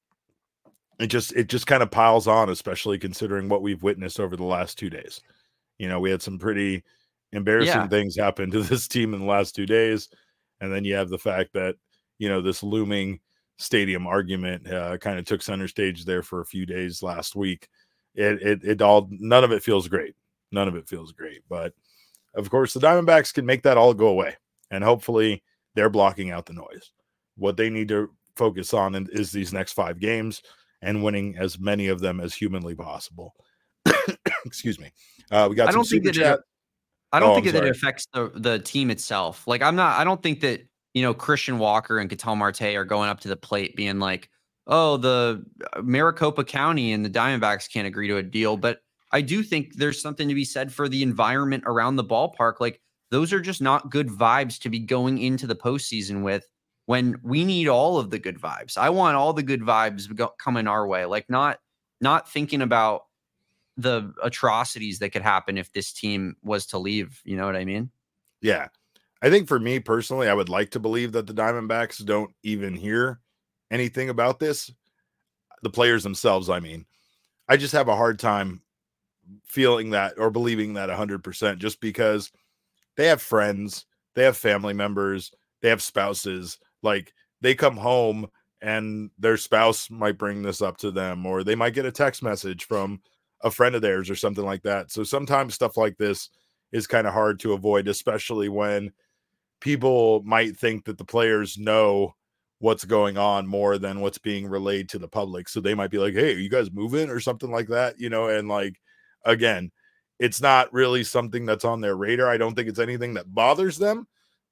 it just, it just kind of piles on, especially considering what we've witnessed over the last two days. You know, we had some pretty embarrassing yeah. things happen to this team in the last two days. And then you have the fact that, you know, this looming stadium argument uh, kind of took center stage there for a few days last week. It, it, it all, none of it feels great. None of it feels great. But of course, the Diamondbacks can make that all go away. And hopefully they're blocking out the noise. What they need to focus on is these next five games and winning as many of them as humanly possible. Excuse me. Uh, we got. I don't some think that. chat. It, I don't oh, think I'm that sorry. it affects the the team itself. Like I'm not. I don't think that you know Christian Walker and Ketel Marte are going up to the plate being like, "Oh, the Maricopa County and the Diamondbacks can't agree to a deal." But I do think there's something to be said for the environment around the ballpark. Like those are just not good vibes to be going into the postseason with. When we need all of the good vibes. I want all the good vibes go, coming our way. Like not not thinking about the atrocities that could happen if this team was to leave. You know what I mean? Yeah. I think for me personally, I would like to believe that the Diamondbacks don't even hear anything about this. The players themselves, I mean. I just have a hard time feeling that or believing that one hundred percent just because they have friends, they have family members, they have spouses. Like, they come home and their spouse might bring this up to them, or they might get a text message from a friend of theirs or something like that. So sometimes stuff like this is kind of hard to avoid, especially when people might think that the players know what's going on more than what's being relayed to the public. So they might be like, hey, are you guys moving or something like that? You know, and like, again, it's not really something that's on their radar. I don't think it's anything that bothers them.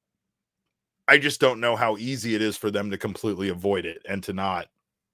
I just don't know how easy it is for them to completely avoid it and to not,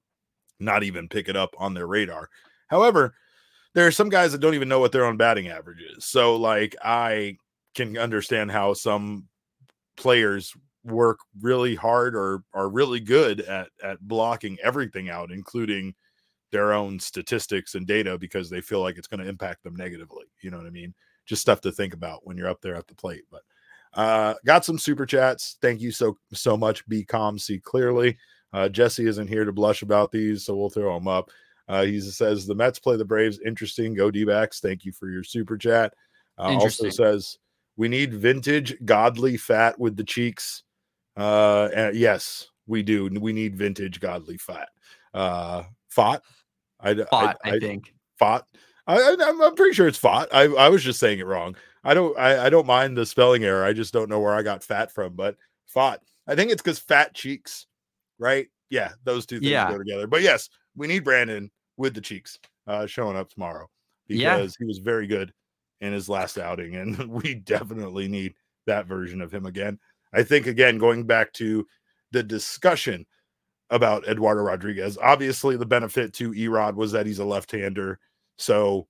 not even pick it up on their radar. However, there are some guys that don't even know what their own batting average is. So like, I can understand how some players work really hard or are really good at, at blocking everything out, including their own statistics and data, because they feel like it's going to impact them negatively. You know what I mean? Just stuff to think about when you're up there at the plate. But uh, got some super chats. Thank you so, so much. Be calm, see clearly. Uh, Jesse isn't here to blush about these, so we'll throw them up. Uh, he says the Mets play the Braves. Interesting. Go D-backs. Thank you for your super chat. Uh, also says we need vintage godly fat with the cheeks. Uh, and yes, we do. We need vintage godly fat. Uh, fought. I, fought, I, I, I think fought. I, I'm, I'm pretty sure it's fought. I, I was just saying it wrong. I don't. I, I don't mind the spelling error. I just don't know where I got fat from. But fought. I think it's because fat cheeks, right? Yeah, those two things yeah. go together. But yes, we need Brandon with the cheeks uh, showing up tomorrow because yeah. he was very good in his last outing, and we definitely need that version of him again. I think, again, going back to the discussion about Eduardo Rodriguez, obviously the benefit to Erod was that he's a left-hander, so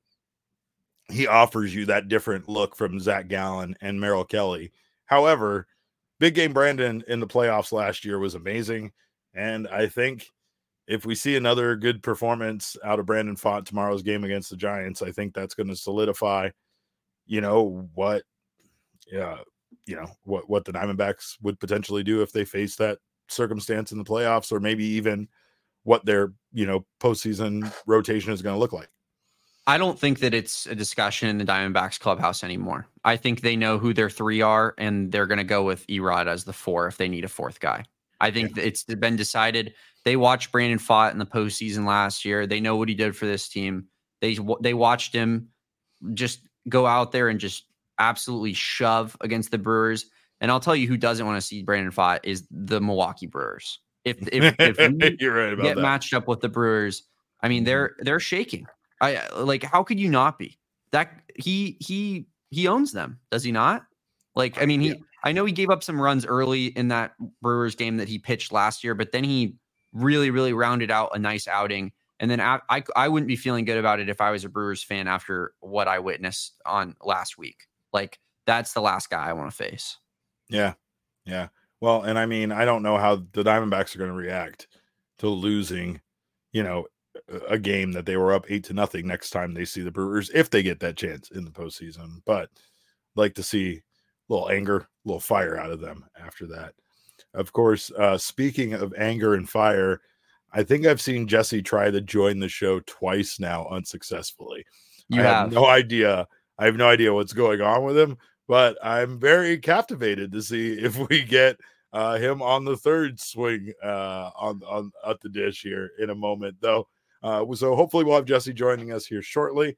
he offers you that different look from Zach Gallen and Merrill Kelly. However, Big Game Brandon in the playoffs last year was amazing, and I think if we see another good performance out of Brandon Pfaadt tomorrow's game against the Giants, I think that's going to solidify, you know, what, yeah, you know, what, what the Diamondbacks would potentially do if they face that circumstance in the playoffs, or maybe even what their, you know, postseason rotation is going to look like. I don't think that it's a discussion in the Diamondbacks clubhouse anymore. I think they know who their three are, and they're going to go with Erod as the four if they need a fourth guy. I think yeah. it's been decided. They watched Brandon Pfaadt in the postseason last year. They know what he did for this team. They they watched him just go out there and just absolutely shove against the Brewers. And I'll tell you who doesn't want to see Brandon Pfaadt is the Milwaukee Brewers. If if, if we You're right about get that. matched up with the Brewers, I mean they're they're shaking. I like how could you not be? That he he he owns them, does he not? Like I mean he yeah. I know he gave up some runs early in that Brewers game that he pitched last year, but then he really really rounded out a nice outing. And then I, I I wouldn't be feeling good about it if I was a Brewers fan after what I witnessed on last week. Like that's the last guy I want to face. Yeah. Yeah. Well, and I mean, I don't know how the Diamondbacks are going to react to losing, you know, a game that they were up eight to nothing next time they see the Brewers, if they get that chance in the postseason. But like to see a little anger, a little fire out of them after that. Of course, uh, speaking of anger and fire, I think I've seen Jesse try to join the show twice now unsuccessfully. You I have. have no idea. I have no idea what's going on with him, but I'm very captivated to see if we get uh, him on the third swing uh, on, on at the dish here in a moment, though. Uh, so hopefully we'll have Jesse joining us here shortly.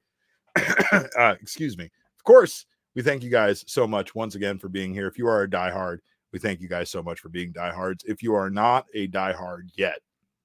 uh, excuse me. Of course, we thank you guys so much once again for being here. If you are a diehard, we thank you guys so much for being diehards. If you are not a diehard yet,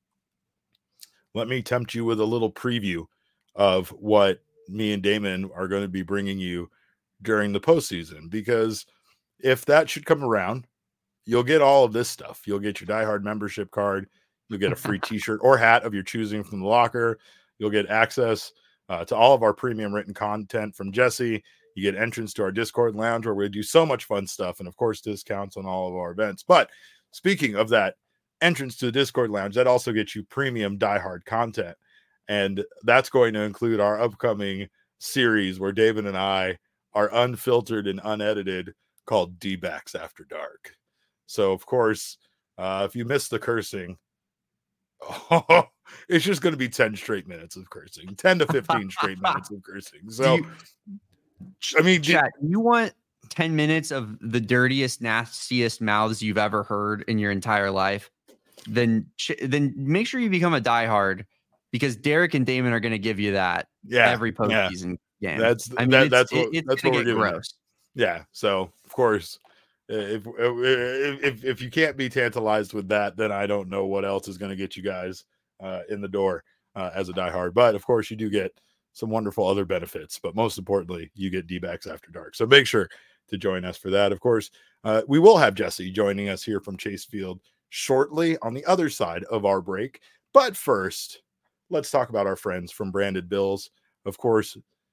let me tempt you with a little preview of what me and Damon are going to be bringing you during the postseason, because if that should come around, you'll get all of this stuff. You'll get your diehard membership card. You'll get a free t-shirt or hat of your choosing from the locker. You'll get access uh, to all of our premium written content from Jesse. You get entrance to our Discord lounge where we do so much fun stuff, and of course discounts on all of our events. But speaking of that entrance to the Discord lounge, that also gets you premium diehard content. And that's going to include our upcoming series where David and I are unfiltered and unedited called D-backs After Dark. So, of course, uh, if you miss the cursing, oh, it's just going to be ten straight minutes of cursing, ten to fifteen straight minutes of cursing. So, you, I mean, chat, do you want ten minutes of the dirtiest, nastiest mouths you've ever heard in your entire life? Then, then make sure you become a diehard, because Derek and Damon are going to give you that yeah, every postseason yeah. game. That's I mean, that, it's, that's it, what it's that's gonna what we're get doing. gross. Yeah. So, of course, if if if, if you can't be tantalized with that, then I don't know what else is going to get you guys uh, in the door uh, as a diehard. But of course, you do get some wonderful other benefits. But most importantly, you get D-backs After Dark. So make sure to join us for that. Of course, uh, we will have Jesse joining us here from Chase Field shortly on the other side of our break. But first, let's talk about our friends from Branded Bills. Of course,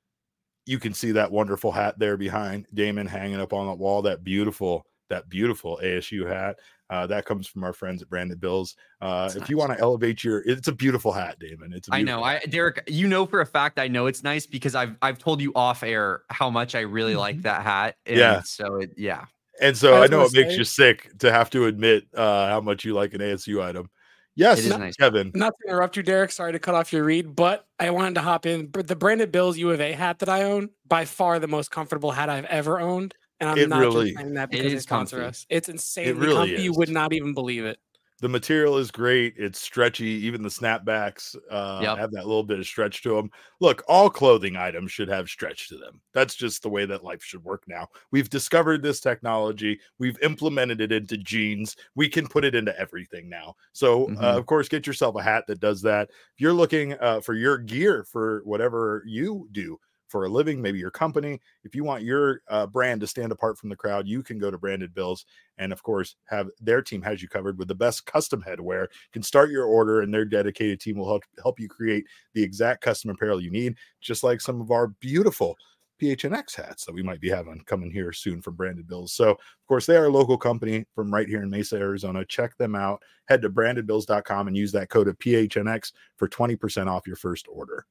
you can see that wonderful hat there behind Damon hanging up on the wall, that beautiful, that beautiful A S U hat. Uh, that comes from our friends at Branded Bills. Uh, if nice. You want to elevate your, it's a beautiful hat, Damon. It's a I know. hat. I Derek, you know for a fact I know it's nice because I've I've told you off air how much I really like that hat. And yeah. So it, yeah. And so I, I know it say, makes you sick to have to admit uh, how much you like an A S U item. Yes, not, nice. Kevin. Not to interrupt you, Derek. Sorry to cut off your read, but I wanted to hop in. The Branded Bills U of A hat that I own, by far the most comfortable hat I've ever owned. And I'm it not really, just saying that because they sponsor comfy. us. It's insanely it really comfy. Is. You would not even believe it. The material is great. It's stretchy. Even the snapbacks uh, yep. have that little bit of stretch to them. Look, all clothing items should have stretch to them. That's just the way that life should work now. We've discovered this technology. We've implemented it into jeans. We can put it into everything now. So, mm-hmm. uh, of course, get yourself a hat that does that. If you're looking uh, for your gear for whatever you do for a living, maybe your company, if you want your uh, brand to stand apart from the crowd, you can go to Branded Bills and, of course, have their team has you covered with the best custom headwear. You can start your order and their dedicated team will help help you create the exact custom apparel you need, just like some of our beautiful P H N X hats that we might be having coming here soon from Branded Bills. So, of course, they are a local company from right here in Mesa, Arizona. Check them out. Head to branded bills dot com and use that code of P H N X for twenty percent off your first order.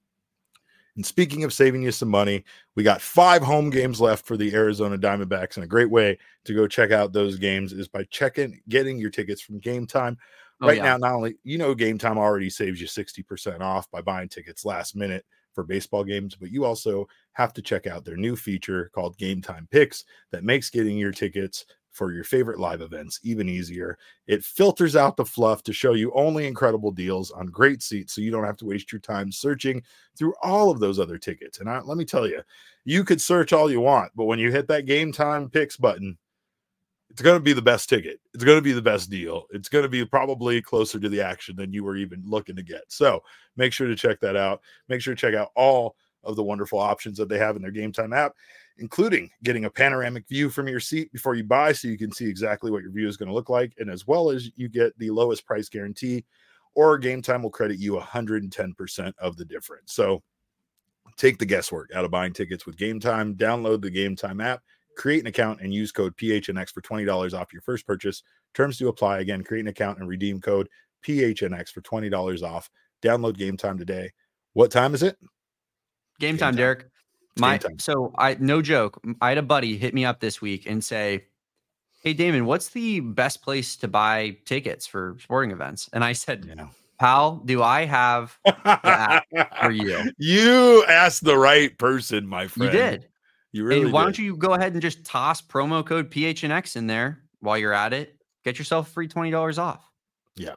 And speaking of saving you some money, we got five home games left for the Arizona Diamondbacks. And a great way to go check out those games is by checking, getting your tickets from Game Time. Oh, right yeah. now, not only, you know, Game Time already saves you sixty percent off by buying tickets last minute for baseball games, but you also have to check out their new feature called Game Time Picks that makes getting your tickets for your favorite live events even easier. It filters out the fluff to show you only incredible deals on great seats, so you don't have to waste your time searching through all of those other tickets. And I, let me tell you, you could search all you want, but when you hit that Game Time Picks button, it's going to be the best ticket. It's going to be the best deal. It's going to be probably closer to the action than you were even looking to get. So make sure to check that out. Make sure to check out all of the wonderful options that they have in their Game Time app, including getting a panoramic view from your seat before you buy so you can see exactly what your view is going to look like. And as well as you get the lowest price guarantee, or Game Time will credit you one hundred ten percent of the difference. So take the guesswork out of buying tickets with Game Time. Download the Game Time app, create an account, and use code P H N X for twenty dollars off your first purchase. Terms do apply. Again, create an account and redeem code P H N X for twenty dollars off. Download Game Time today. What time is it? Game, Game time, time, Derek. My time. So I no joke. I had a buddy hit me up this week and say, "Hey Damon, what's the best place to buy tickets for sporting events?" And I said, yeah. "Pal, do I have the app for you?" You asked the right person, my friend. You did. You really and why did. don't you go ahead and just toss promo code P H N X in there while you're at it? Get yourself free twenty dollars off. Yeah.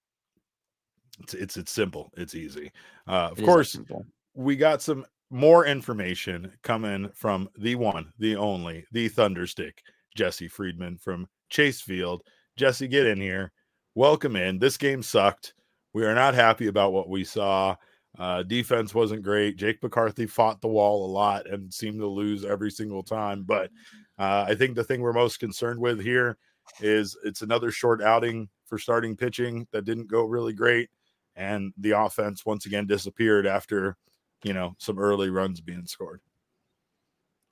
It's it's it's simple. It's easy. Uh, of it course, we got some more information coming from the one, the only, the Thunderstick, Jesse Friedman from Chase Field. Jesse, get in here. Welcome in. This game sucked. We are not happy about what we saw. Uh, defense wasn't great. Jake McCarthy fought the wall a lot and seemed to lose every single time. But uh, I think the thing we're most concerned with here is it's another short outing for starting pitching that didn't go really great. And the offense once again disappeared after, you know, some early runs being scored.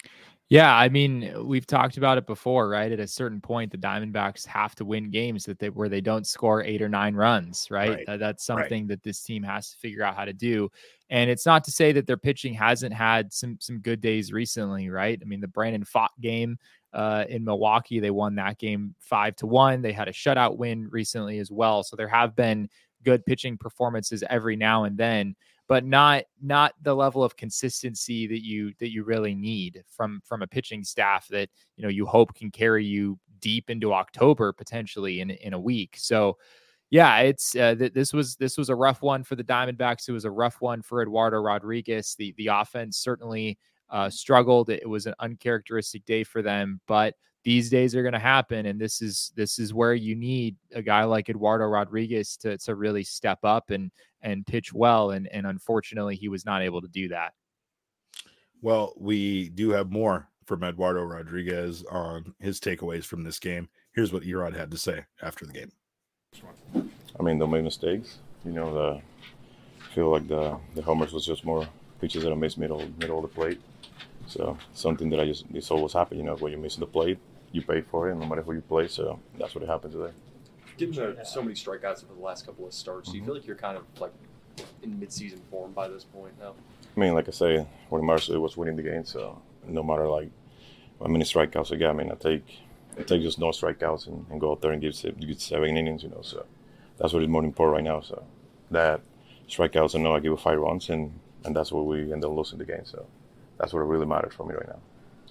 Yeah, I mean, we've talked about it before, right? At a certain point, the Diamondbacks have to win games that they where they don't score eight or nine runs, right? Right. Uh, that's something right. that this team has to figure out how to do. And it's not to say that their pitching hasn't had some some good days recently, right? I mean, the Brandon Pfaadt game uh, in Milwaukee, they won that game five to one. They had a shutout win recently as well, so there have been good pitching performances every now and then, but not not the level of consistency that you that you really need from from a pitching staff that, you know, you hope can carry you deep into October potentially in in a week. So yeah, it's uh, th- this was this was a rough one for the Diamondbacks. It was a rough one for Eduardo Rodriguez. The the offense certainly uh, struggled. It was an uncharacteristic day for them, but these days are going to happen, and this is this is where you need a guy like Eduardo Rodriguez to to really step up and and pitch well, and and unfortunately he was not able to do that. Well, we do have more from Eduardo Rodriguez on his takeaways from this game. Here's what Erod had to say after the game. I mean, they made mistakes. You know, the I feel like the the homers was just more pitches that I missed middle middle of the plate. So something that I just it's always happen. You know, when you're missing the plate, you pay for it, no matter who you play. So that's what happened today. Given the, so many strikeouts over the last couple of starts, mm-hmm. do you feel like you're kind of like in mid-season form by this point now? I mean, like I say, what matters was winning the game. So no matter like how many strikeouts I got, I mean, I take I take just no strikeouts and, and go out there and give give seven innings. You know, so that's what is more important right now. So that strikeouts, I know I give it five runs, and and that's what we end up losing the game. So that's what really matters for me right now.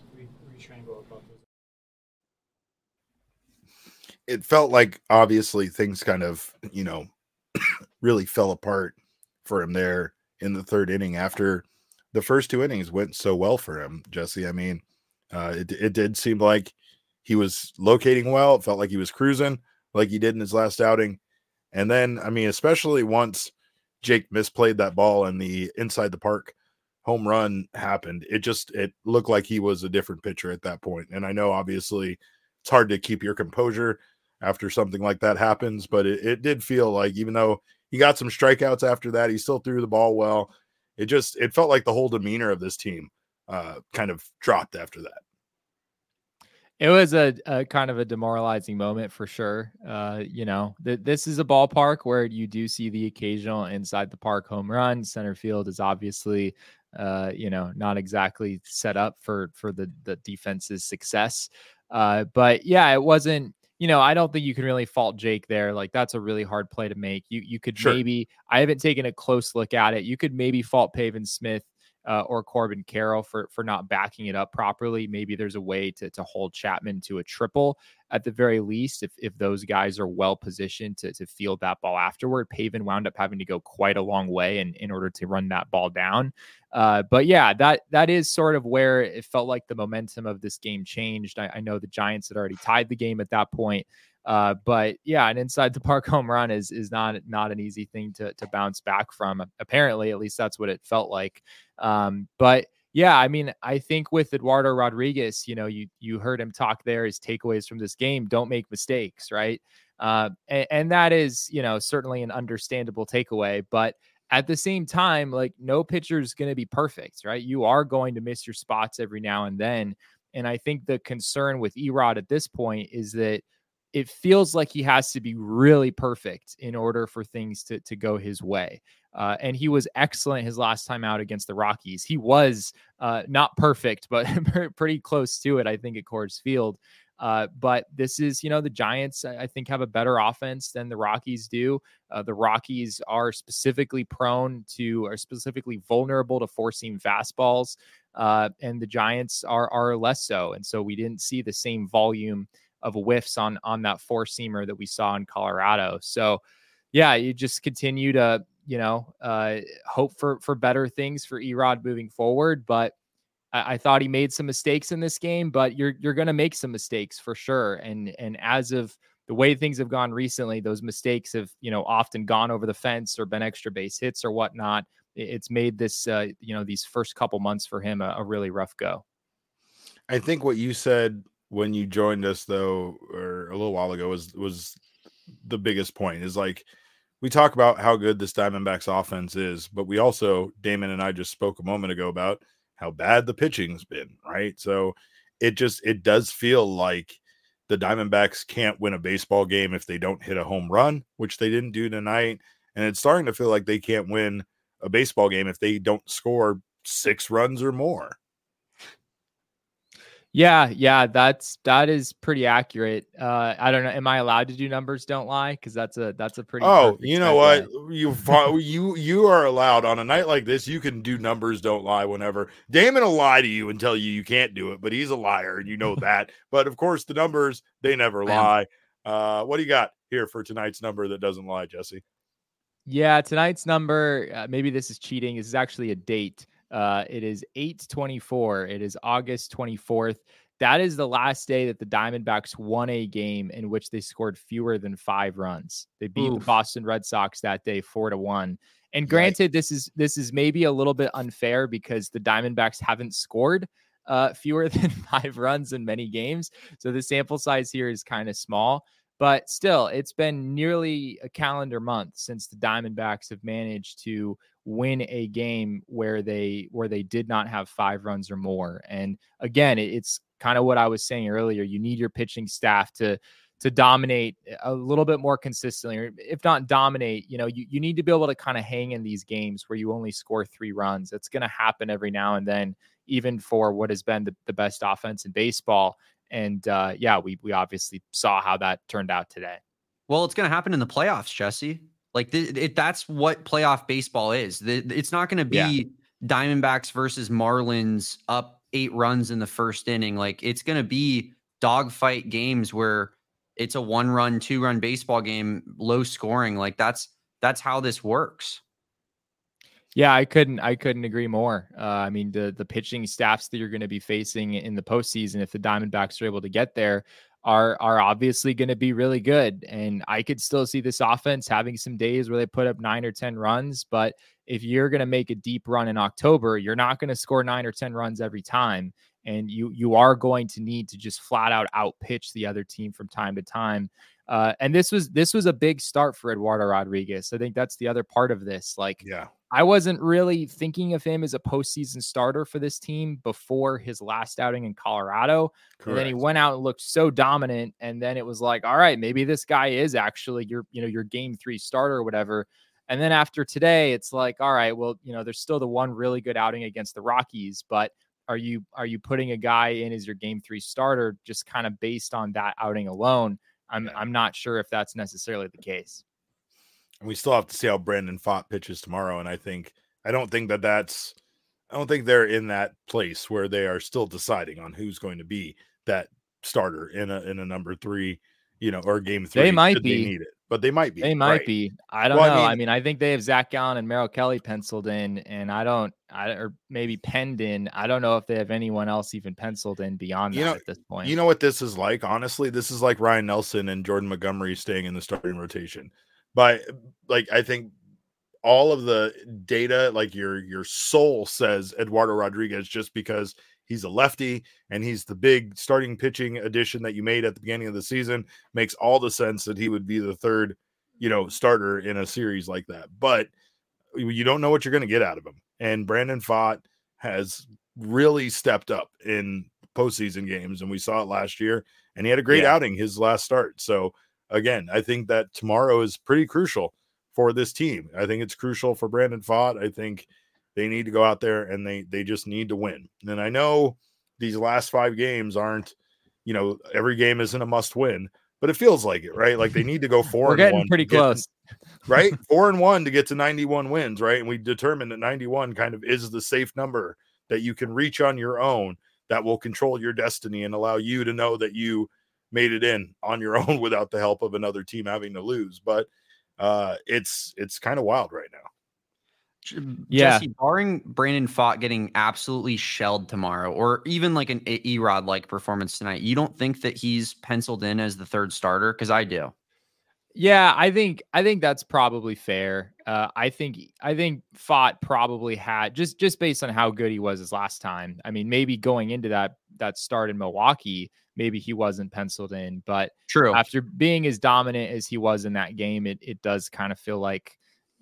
It felt like obviously things kind of, you know, really fell apart for him there in the third inning after the first two innings went so well for him, Jesse. I mean, uh, it, it did seem like he was locating well. It felt like he was cruising like he did in his last outing. And then, I mean, especially once Jake misplayed that ball and the inside the park home run happened, it just, it looked like he was a different pitcher at that point. And I know obviously it's hard to keep your composure after something like that happens, but it, it did feel like, even though he got some strikeouts after that, he still threw the ball well. It just, it felt like the whole demeanor of this team uh, kind of dropped after that. It was a, a kind of a demoralizing moment for sure. Uh, you know, th- this is a ballpark where you do see the occasional inside the park home run. Center field is obviously, uh, you know, not exactly set up for, for the, the defense's success. Uh, but yeah, it wasn't, you know, I don't think you can really fault Jake there. Like, that's a really hard play to make. You you could sure. maybe, I haven't taken a close look at it. You could maybe fault Pavin Smith uh, or Corbin Carroll for for not backing it up properly. Maybe there's a way to to hold Chapman to a triple at the very least, if if those guys are well positioned to to field that ball afterward. Pavin wound up having to go quite a long way in, in order to run that ball down. Uh, but yeah, that that is sort of where it felt like the momentum of this game changed. I, I know the Giants had already tied the game at that point. Uh, but yeah, an inside the park home run is is not not an easy thing to to bounce back from. Apparently, at least that's what it felt like. Um, but yeah, I mean, I think with Eduardo Rodriguez, you know, you you heard him talk there. His takeaways from this game: don't make mistakes, right? Uh, and, and that is, you know, certainly an understandable takeaway. But at the same time, like, no pitcher is going to be perfect, right? You are going to miss your spots every now and then. And I think the concern with Erod at this point is that it feels like he has to be really perfect in order for things to, to go his way. Uh, and he was excellent his last time out against the Rockies. He was uh, not perfect, but pretty close to it, I think, at Coors Field. Uh, but this is, you know, the Giants, I think, have a better offense than the Rockies do. Uh, the Rockies are specifically prone to, are specifically vulnerable to four-seam fastballs. Uh, and the Giants are, are less so. And so we didn't see the same volume of whiffs on, on that four-seamer that we saw in Colorado. So yeah, you just continue to, you know, uh, hope for, for better things for Erod moving forward. But I thought he made some mistakes in this game, but you're you're going to make some mistakes for sure. And and as of the way things have gone recently, those mistakes have, you know, often gone over the fence or been extra base hits or whatnot. It's made this, uh, you know, these first couple months for him a, a really rough go. I think what you said when you joined us, though, or a little while ago, was was the biggest point. Is like, we talk about how good this Diamondbacks offense is, but we also, Damon and I just spoke a moment ago about how bad the pitching's been, right? So it just it does feel like the Diamondbacks can't win a baseball game if they don't hit a home run, which they didn't do tonight. And it's starting to feel like they can't win a baseball game if they don't score six runs or more. Yeah, yeah, that's that is pretty accurate. Uh, I don't know. Am I allowed to do numbers don't lie? Because that's a that's a pretty. Oh, you know segue. What? You you you are allowed on a night like this. You can do numbers don't lie whenever. Damon will lie to you and tell you you can't do it, but he's a liar and you know that. But of course, the numbers they never lie. Uh, what do you got here for tonight's number that doesn't lie, Jesse? Yeah, tonight's number. Uh, maybe this is cheating. This is actually a date. Uh, it is eight twenty-four. It is August twenty-fourth. That is the last day that the Diamondbacks won a game in which they scored fewer than five runs. They beat Oof. the Boston Red Sox that day four to one. And granted, right. this is this is maybe a little bit unfair because the Diamondbacks haven't scored uh, fewer than five runs in many games. So the sample size here is kind of small. But still, it's been nearly a calendar month since the Diamondbacks have managed to win a game where they where they did not have five runs or more. And again, it's kind of what I was saying earlier. You need your pitching staff to to dominate a little bit more consistently, or if not dominate, you know, you, you need to be able to kind of hang in these games where you only score three runs. It's going to happen every now and then, even for what has been the, the best offense in baseball. And uh, yeah, we we obviously saw how that turned out today. Well, it's going to happen in the playoffs, Jesse. Like th- it, that's what playoff baseball is. The, it's not going to be yeah. Diamondbacks versus Marlins up eight runs in the first inning. Like it's going to be dogfight games where it's a one run, two run baseball game, low scoring. Like that's that's how this works. Yeah, I couldn't I couldn't agree more. Uh, I mean, the the pitching staffs that you're going to be facing in the postseason, if the Diamondbacks are able to get there, are are obviously going to be really good. And I could still see this offense having some days where they put up nine or ten runs. But if you're going to make a deep run in October, you're not going to score nine or ten runs every time. And you you are going to need to just flat out outpitch the other team from time to time. Uh, and this was this was a big start for Eduardo Rodriguez. I think that's the other part of this. Like, yeah. I wasn't really thinking of him as a postseason starter for this team before his last outing in Colorado. Correct. And then he went out and looked so dominant. And then it was like, all right, maybe this guy is actually your, you know, your game three starter or whatever. And then after today, it's like, all right, well, you know, there's still the one really good outing against the Rockies, but are you, are you putting a guy in as your game three starter just kind of based on that outing alone? I'm, I'm not sure if that's necessarily the case. And we still have to see how Brandon Pfaadt pitches tomorrow. And I think, I don't think that that's, I don't think they're in that place where they are still deciding on who's going to be that starter in a, in a number three, you know, or game three. They might be. They need it, but they might be. They might right. be. I don't well, know. I mean, I mean, I think they have Zach Gallen and Merrill Kelly penciled in, and I don't, I or maybe penned in. I don't know if they have anyone else even penciled in beyond that you know, at this point. You know what this is like? Honestly, this is like Ryan Nelson and Jordan Montgomery staying in the starting rotation. But like, I think all of the data, like your your soul says Eduardo Rodriguez, just because he's a lefty and he's the big starting pitching addition that you made at the beginning of the season, makes all the sense that he would be the third, you know, starter in a series like that. But you don't know what you're going to get out of him. And Brandon Pfaadt has really stepped up in postseason games, and we saw it last year. And he had a great yeah. outing his last start. So again, I think that tomorrow is pretty crucial for this team. I think it's crucial for Brandon Pfaadt. I think they need to go out there and they they just need to win. And I know these last five games aren't, you know, every game isn't a must win, but it feels like it, right? Like they need to go four We're and getting one pretty close, to, right? Four and one to get to ninety-one wins, right? And we determined that ninety-one kind of is the safe number that you can reach on your own that will control your destiny and allow you to know that you made it in on your own without the help of another team having to lose. But uh, it's it's kind of wild right now. Yeah. Jesse, barring Brandon Pfaadt getting absolutely shelled tomorrow, or even like an E-Rod like performance tonight, you don't think that he's penciled in as the third starter? Because I do. Yeah, I think I think that's probably fair. Uh, I think I think Pfaadt probably had just just based on how good he was his last time. I mean, maybe going into that that start in Milwaukee, maybe he wasn't penciled in, but true. After being as dominant as he was in that game, it it does kind of feel like,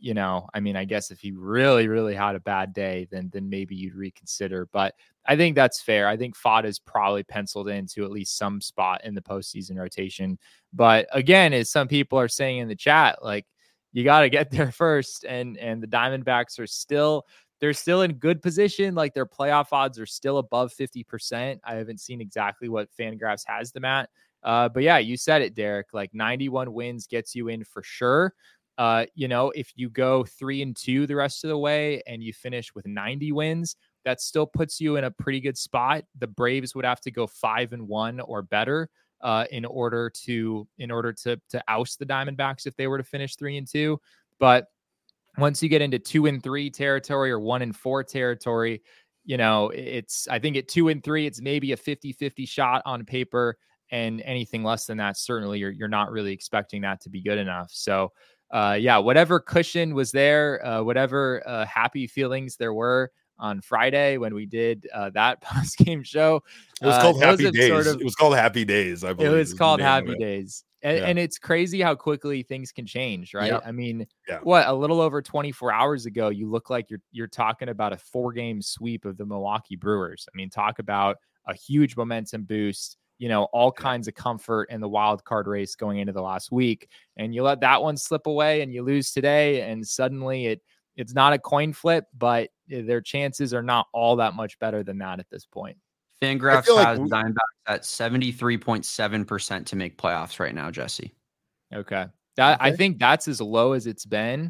you know, I mean, I guess if he really, really had a bad day, then then maybe you'd reconsider. But I think that's fair. I think Fod is probably penciled into at least some spot in the postseason rotation. But again, as some people are saying in the chat, like, you got to get there first. And and the Diamondbacks are still, they're still in good position. Like, their playoff odds are still above fifty percent. I haven't seen exactly what Fangraphs has them at. Uh, but yeah, you said it, Derek. Like, ninety-one wins gets you in for sure. Uh, you know, if you go three and two the rest of the way and you finish with ninety wins, that still puts you in a pretty good spot. The Braves would have to go five and one or better uh, in order to in order to to oust the Diamondbacks if they were to finish three and two. But once you get into two and three territory or one and four territory, you know, it's, I think at two and three, it's maybe a fifty-fifty shot on paper, and anything less than that, certainly you're you're not really expecting that to be good enough. So uh, yeah, whatever cushion was there, uh, whatever uh, happy feelings there were on Friday when we did uh, that post game show, it was called uh, Happy Days. Sort of, it was called Happy Days. I believe it was called Happy Days. And, yeah. and it's crazy how quickly things can change, right? Yep. I mean, yeah. what, a little over twenty-four hours ago, you look like you're you're talking about a four game sweep of the Milwaukee Brewers. I mean, talk about a huge momentum boost. You know, all kinds of comfort in the wild card race going into the last week, and you let that one slip away and you lose today, and suddenly it it's not a coin flip, but their chances are not all that much better than that at this point. Fangraphs like has we- Diamondbacks at seventy-three point seven percent to make playoffs right now, Jesse. Okay. That Okay. I think that's as low as it's been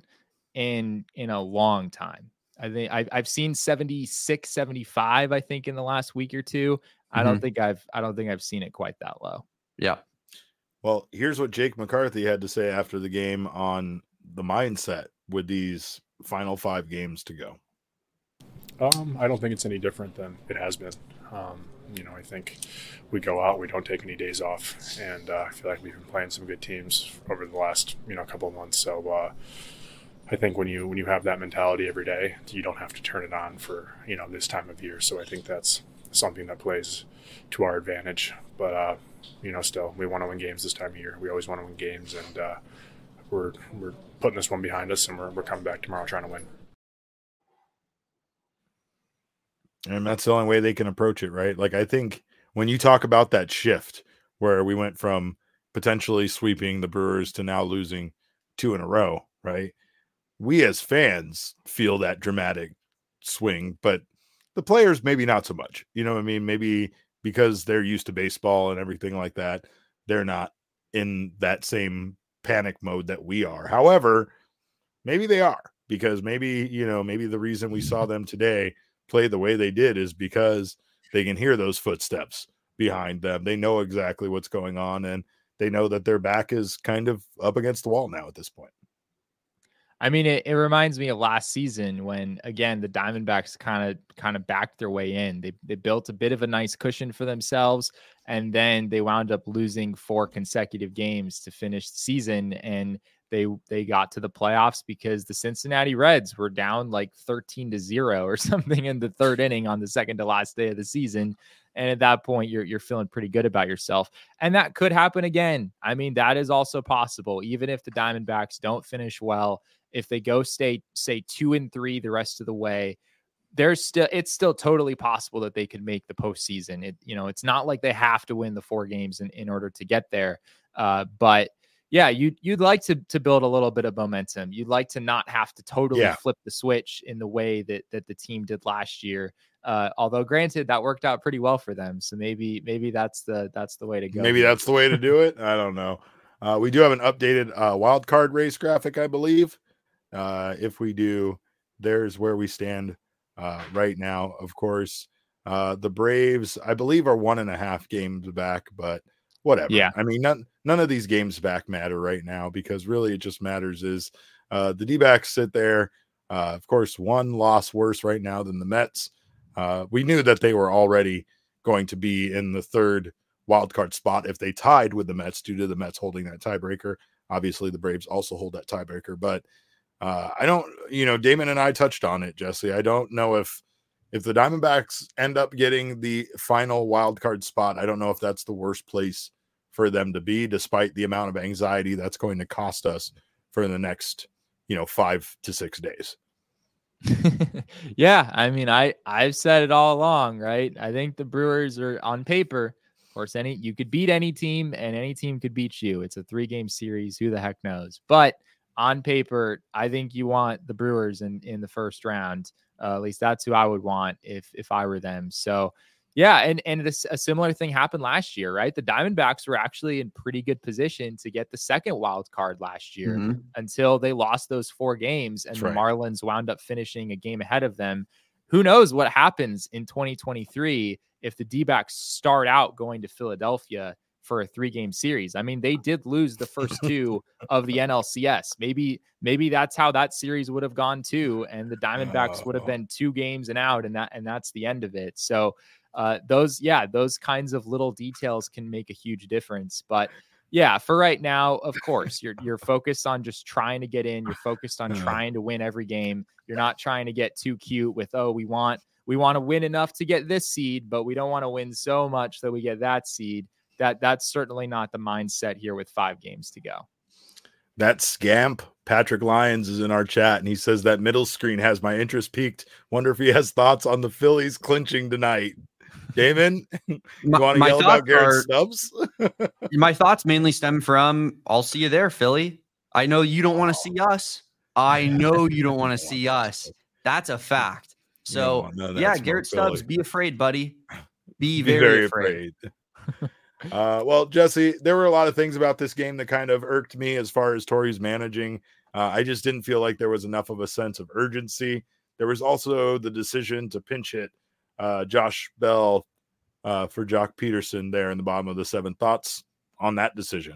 in in a long time. I think I've, I've seen seventy-six, seventy-five, I think, in the last week or two. I don't think I've I don't think I've seen it quite that low. Yeah. Well, here's what Jake McCarthy had to say after the game on the mindset with these final five games to go. Um, I don't think it's any different than it has been. Um, you know, I think we go out, we don't take any days off, and uh, I feel like we've been playing some good teams over the last, you know, couple of months. So uh, I think when you when you have that mentality every day, you don't have to turn it on for, you know, this time of year. So I think that's something that plays to our advantage. But uh, you know, still, we want to win games this time of year. We always want to win games, and uh, we're we're putting this one behind us, and we're we're coming back tomorrow trying to win. And that's the only way they can approach it, right? Like, I think when you talk about that shift where we went from potentially sweeping the Brewers to now losing two in a row, right? We as fans feel that dramatic swing, but the players maybe not so much. You know what I mean? Maybe because they're used to baseball and everything like that, they're not in that same panic mode that we are. However, maybe they are, because maybe, you know, maybe the reason we saw them today play the way they did is because they can hear those footsteps behind them. They know exactly what's going on, and they know that their back is kind of up against the wall now at this point. I mean, it, it reminds me of last season when, again, the Diamondbacks kind of kind of backed their way in. They they built a bit of a nice cushion for themselves, and then they wound up losing four consecutive games to finish the season, and they they got to the playoffs because the Cincinnati Reds were down like thirteen to zero or something in the third inning on the second to last day of the season. And at that point, you're you're feeling pretty good about yourself. And that could happen again. I mean, that is also possible. Even if the Diamondbacks don't finish well, if they go stay, say two and three the rest of the way, there's still, it's still totally possible that they could make the postseason. It, you know, it's not like they have to win the four games in, in order to get there. Uh, but yeah, you'd, you'd like to, to build a little bit of momentum. You'd like to not have to totally yeah. flip the switch in the way that, that the team did last year. Uh, although granted, that worked out pretty well for them. So maybe, maybe that's the, that's the way to go. Maybe that's the way to do it. I don't know. Uh, we do have an updated uh, wild card race graphic, I believe. Uh, if we do, there's where we stand uh, right now. Of course, uh, the Braves, I believe, are one and a half games back, but whatever. Yeah. I mean, none, none of these games back matter right now, because really it just matters is uh, the D-backs sit there. Uh, of course, one loss worse right now than the Mets. Uh, we knew that they were already going to be in the third wild card spot if they tied with the Mets, due to the Mets holding that tiebreaker. Obviously, the Braves also hold that tiebreaker, but uh, I don't, you know, Damon and I touched on it, Jesse. I don't know if if the Diamondbacks end up getting the final wild card spot. I don't know if that's the worst place for them to be, despite the amount of anxiety that's going to cost us for the next you know, five to six days. Yeah, I mean, I I've said it all along, right? I think the Brewers are on paper. Of course, any you could beat any team, and any team could beat you. It's a three-game series. Who the heck knows? But on paper, I think you want the Brewers in in the first round. Uh, at least that's who I would want if if I were them. So. Yeah, and and this, a similar thing happened last year, right? The Diamondbacks were actually in pretty good position to get the second wild card last year mm-hmm. until they lost those four games, and That's the right. Marlins wound up finishing a game ahead of them. Who knows what happens in twenty twenty-three if the D-backs start out going to Philadelphia for a three-game series? I mean, they did lose the first two of the N L C S. Maybe maybe that's how that series would have gone too, and the Diamondbacks oh. would have been two games and out, and that and that's the end of it. So. Uh, those, yeah, those kinds of little details can make a huge difference. But yeah, for right now, of course, you're you're focused on just trying to get in. You're focused on trying to win every game. You're not trying to get too cute with, oh, we want we want to win enough to get this seed, but we don't want to win so much that we get that seed. That that's certainly not the mindset here with five games to go. That scamp Patrick Lyons is in our chat, and he says that middle screen has my interest peaked. Wonder if he has thoughts on the Phillies clinching tonight. Damon, you my, want to yell about Garrett are, Stubbs? My thoughts mainly stem from, I'll see you there, Philly. I know you don't want to see us. I know you don't want to see us. That's a fact. So, no, no, yeah, Garrett Stubbs, Philly. Be afraid, buddy. Be, be very, very afraid. afraid. uh, well, Jesse, there were a lot of things about this game that kind of irked me as far as Torey's managing. Uh, I just didn't feel like there was enough of a sense of urgency. There was also the decision to pinch hit Uh, Josh Bell uh, for Jock Peterson there in the bottom of the seventh. Thoughts on that decision?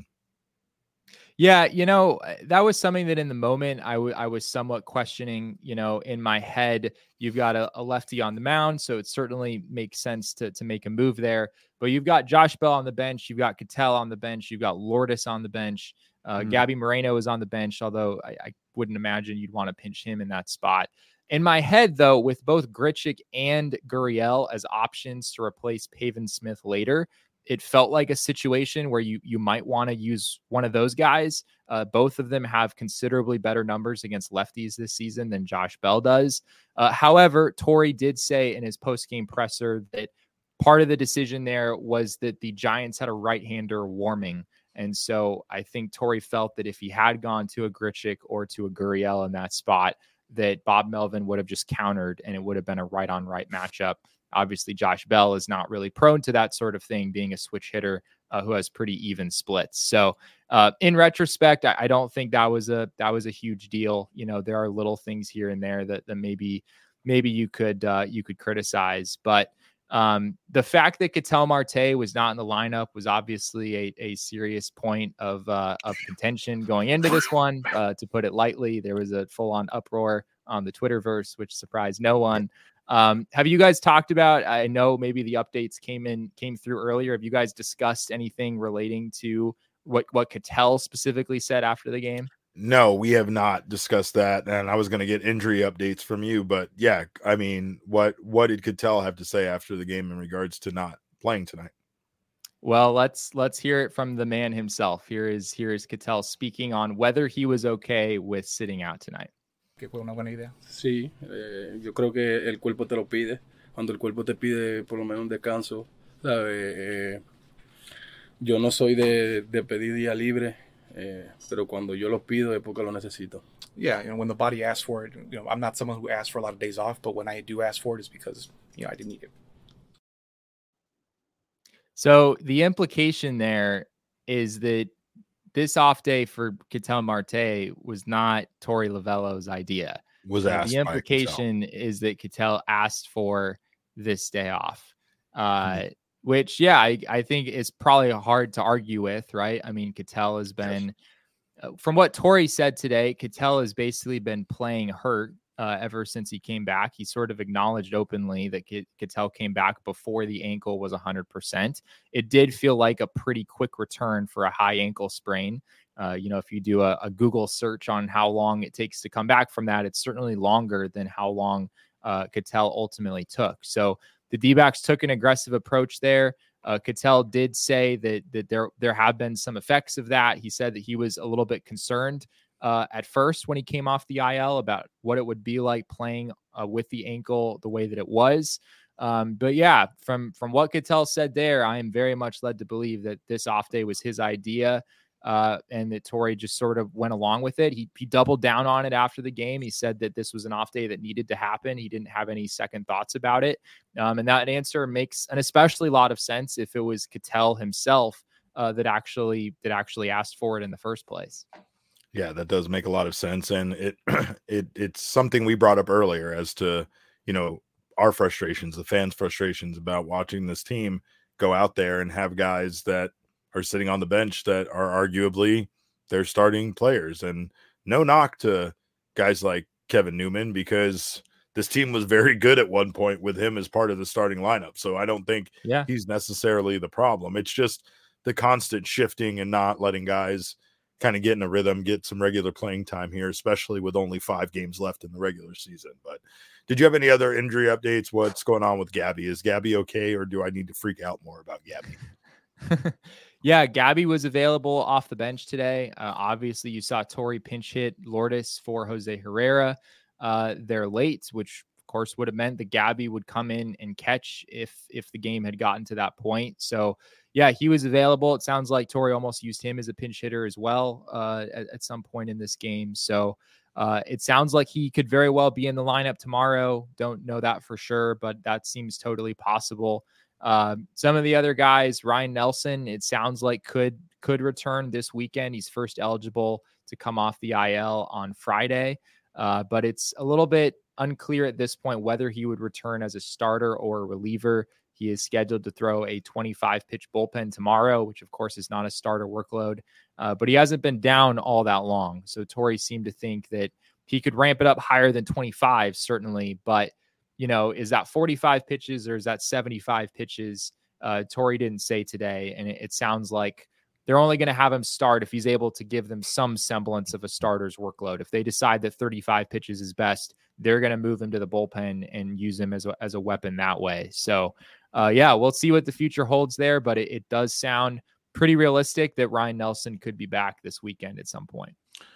Yeah, you know, that was something that in the moment I, w- I was somewhat questioning. You know, in my head, you've got a, a lefty on the mound, so it certainly makes sense to, to make a move there. But you've got Josh Bell on the bench, you've got Ketel on the bench, you've got Lourdes on the bench. Uh, mm. Gabby Moreno is on the bench, although I, I wouldn't imagine you'd want to pinch him in that spot. In my head, though, with both Grichuk and Gurriel as options to replace Pavin Smith later, it felt like a situation where you you might want to use one of those guys. Uh, both of them have considerably better numbers against lefties this season than Josh Bell does. Uh, however, Torey did say in his post-game presser that part of the decision there was that the Giants had a right-hander warming. And so I think Torey felt that if he had gone to a Grichuk or to a Gurriel in that spot, that Bob Melvin would have just countered and it would have been a right on right matchup. Obviously, Josh Bell is not really prone to that sort of thing, being a switch hitter uh, who has pretty even splits. So uh, in retrospect, I, I don't think that was a, that was a huge deal. You know, there are little things here and there that, that maybe, maybe you could, uh, you could criticize, but um, the fact that Ketel Marte was not in the lineup was obviously a, a serious point of, uh, of contention going into this one. Uh, to put it lightly, there was a full on uproar on the Twitterverse, which surprised no one. Um, have you guys talked about, I know maybe the updates came in, came through earlier. Have you guys discussed anything relating to what, what Ketel specifically said after the game? No, we have not discussed that, and I was going to get injury updates from you, but yeah, I mean, what what did Ketel have to say after the game in regards to not playing tonight? Well, let's let's hear it from the man himself. Here is here is Ketel speaking on whether he was okay with sitting out tonight. Que fue una buena idea. Sí, eh, yo creo que el cuerpo te lo pide. Cuando el cuerpo te pide por lo menos un descanso, ¿sabes? Eh, yo no soy de, de pedir día libre. Eh, pero cuando yo lo pido es porque lo necesito. Yeah, you know, when the body asks for it, you know, I'm not someone who asks for a lot of days off, but when I do ask for it, it's because, you know, I didn't need it. So the implication there is that this off day for Ketel Marte was not Torey Lovello's idea. Was asked. The implication is that Ketel asked for this day off. Uh, mm-hmm. Which, yeah, I, I think is probably hard to argue with, right? I mean, Ketel has been, uh, from what Torey said today, Ketel has basically been playing hurt uh, ever since he came back. He sort of acknowledged openly that Ketel came back before the ankle was one hundred percent. It did feel like a pretty quick return for a high ankle sprain. Uh, you know, if you do a, a Google search on how long it takes to come back from that, it's certainly longer than how long uh, Ketel ultimately took. So the D-backs took an aggressive approach there. Uh, Ketel did say that that there there have been some effects of that. He said that he was a little bit concerned uh, at first when he came off the I L about what it would be like playing uh, with the ankle the way that it was. Um, but yeah, from, from what Cattell said there, I am very much led to believe that this off day was his idea. Uh, and that Torrey just sort of went along with it. He, he doubled down on it after the game. He said that this was an off day that needed to happen. He didn't have any second thoughts about it. Um, and that answer makes an especially lot of sense if it was Cattell himself uh, that actually that actually asked for it in the first place. Yeah, that does make a lot of sense. And it, it it's something we brought up earlier as to, you know, our frustrations, the fans' frustrations about watching this team go out there and have guys that are sitting on the bench that are arguably their starting players. And no knock to guys like Kevin Newman, because this team was very good at one point with him as part of the starting lineup. So I don't think yeah. he's necessarily the problem. It's just the constant shifting and not letting guys kind of get in a rhythm, get some regular playing time here, especially with only five games left in the regular season. But did you have any other injury updates? What's going on with Gabby? Is Gabby okay, or do I need to freak out more about Gabby? Yeah, Gabby was available off the bench today. Uh, obviously, you saw Torrey pinch hit Lourdes for Jose Herrera. Uh, they're late, which of course would have meant that Gabby would come in and catch if if the game had gotten to that point. So yeah, he was available. It sounds like Torrey almost used him as a pinch hitter as well uh, at, at some point in this game. So uh, it sounds like he could very well be in the lineup tomorrow. Don't know that for sure, but that seems totally possible. Uh, some of the other guys, Ryan Nelson, it sounds like could could return this weekend. He's first eligible to come off the I L on Friday, uh, but it's a little bit unclear at this point whether he would return as a starter or a reliever. He is scheduled to throw a twenty-five pitch bullpen tomorrow, which of course is not a starter workload, uh, but he hasn't been down all that long. So Torrey seemed to think that he could ramp it up higher than twenty-five, certainly, but you know, is that forty-five pitches or is that seventy-five pitches? Uh, Torrey didn't say today. And it, it sounds like they're only going to have him start if he's able to give them some semblance of a starter's workload. If they decide that thirty-five pitches is best, they're going to move him to the bullpen and use him as a, as a weapon that way. So, uh, yeah, we'll see what the future holds there, but it, it does sound pretty realistic that Ryan Nelson could be back this weekend at some point.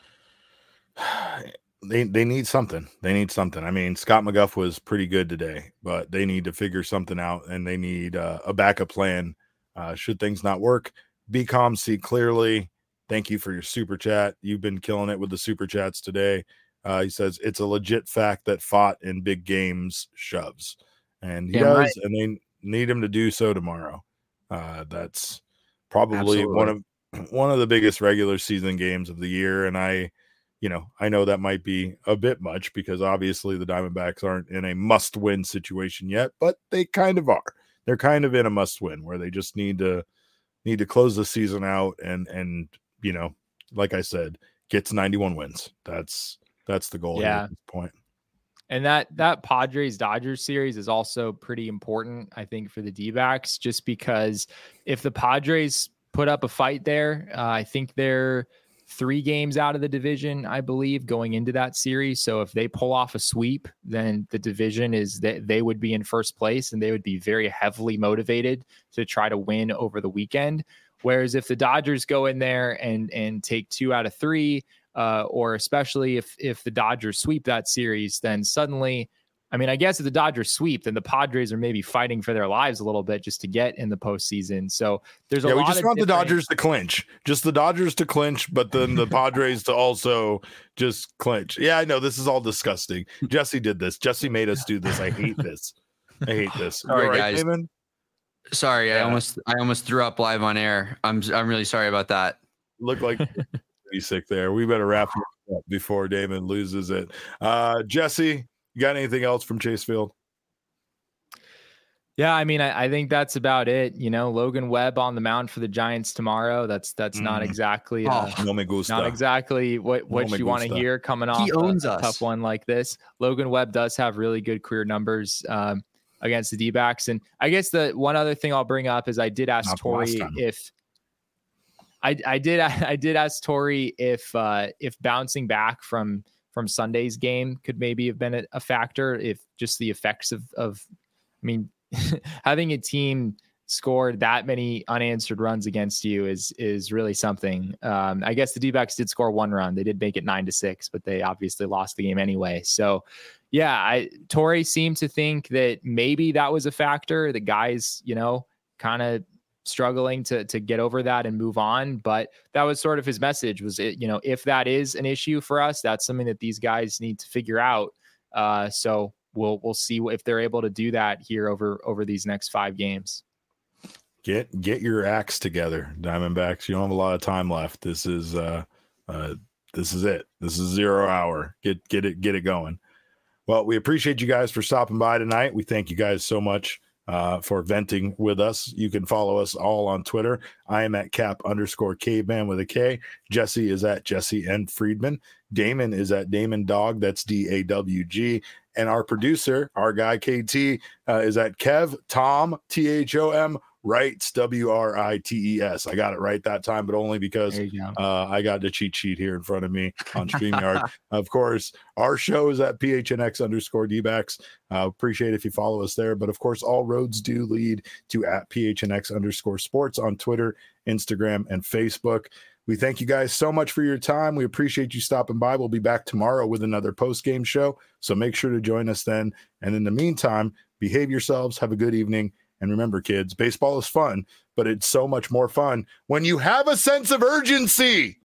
They they need something. They need something. I mean, Scott McGough was pretty good today, but they need to figure something out, and they need uh, a backup plan uh, should things not work. Be calm, see clearly. Thank you for your super chat. You've been killing it with the super chats today. Uh, he says it's a legit fact that fought in big games shoves, and he yeah, does, right. And they need him to do so tomorrow. Uh, that's probably Absolutely. one of one of the biggest regular season games of the year, and I. You know, I know that might be a bit much because obviously the Diamondbacks aren't in a must-win situation yet, but they kind of are. They're kind of in a must-win where they just need to need to close the season out and and you know, like I said, get to ninety-one wins. That's that's the goal yeah. at this point. And that that Padres Dodgers series is also pretty important, I think, for the D-backs, just because if the Padres put up a fight there, uh, I think they're three games out of the division, I believe, going into that series. So if they pull off a sweep, then the division is that they would be in first place and they would be very heavily motivated to try to win over the weekend. Whereas if the Dodgers go in there and, and take two out of three, uh, or especially if, if the Dodgers sweep that series, then suddenly, I mean, I guess if the Dodgers sweep, then the Padres are maybe fighting for their lives a little bit just to get in the postseason. So there's a yeah, lot we just of want different... the Dodgers to clinch, just the Dodgers to clinch, but then the Padres to also just clinch. Yeah, I know this is all disgusting. Jesse did this. Jesse made us do this. I hate this. I hate this. Sorry, right, guys. Damon? Sorry, yeah. I almost I almost threw up live on air. I'm I'm really sorry about that. Look like pretty sick there. We better wrap it up before Damon loses it. Uh, Jesse, you got anything else from Chase Field? Yeah, I mean, I, I think that's about it. You know, Logan Webb on the mound for the Giants tomorrow. That's that's mm. not exactly uh, oh, no me gusta. not exactly what, what no you want to hear coming off he owns a, us. a tough one like this. Logan Webb does have really good career numbers um, against the D-backs. And I guess the one other thing I'll bring up is I did ask Torrey if I, I did I did ask Torrey if uh, if bouncing back from from Sunday's game could maybe have been a, a factor, if just the effects of of I mean. having a team score that many unanswered runs against you is is really something. Um, I guess the D-backs did score one run. They did make it nine to six, but they obviously lost the game anyway. So, yeah, I, Torrey seemed to think that maybe that was a factor. The guys, you know, kind of struggling to to get over that and move on. But that was sort of his message was, it, you know, if that is an issue for us, that's something that these guys need to figure out. Uh, so we'll we'll see if they're able to do that here over over these next five games. Get get your acts together, Diamondbacks. You don't have a lot of time left. This is uh, uh, this is it. This is zero hour. Get get it get it going. Well, we appreciate you guys for stopping by tonight. We thank you guys so much uh, for venting with us. You can follow us all on Twitter. I am at cap underscore caveman with a K. Jesse is at Jesse N. Friedman. Damon is at Damon Dog. That's D A W G. And our producer, our guy K T, uh, is at Kev Tom T H O M Writes, W R I T E S. I got it right that time, but only because uh, I got the cheat sheet here in front of me on StreamYard. Of course, our show is at P H N X underscore D-backs. Uh, appreciate if you follow us there. But of course, all roads do lead to at P H N X underscore sports on Twitter, Instagram, and Facebook. We thank you guys so much for your time. We appreciate you stopping by. We'll be back tomorrow with another post-game show, so make sure to join us then. And in the meantime, behave yourselves. Have a good evening. And remember, kids, baseball is fun, but it's so much more fun when you have a sense of urgency.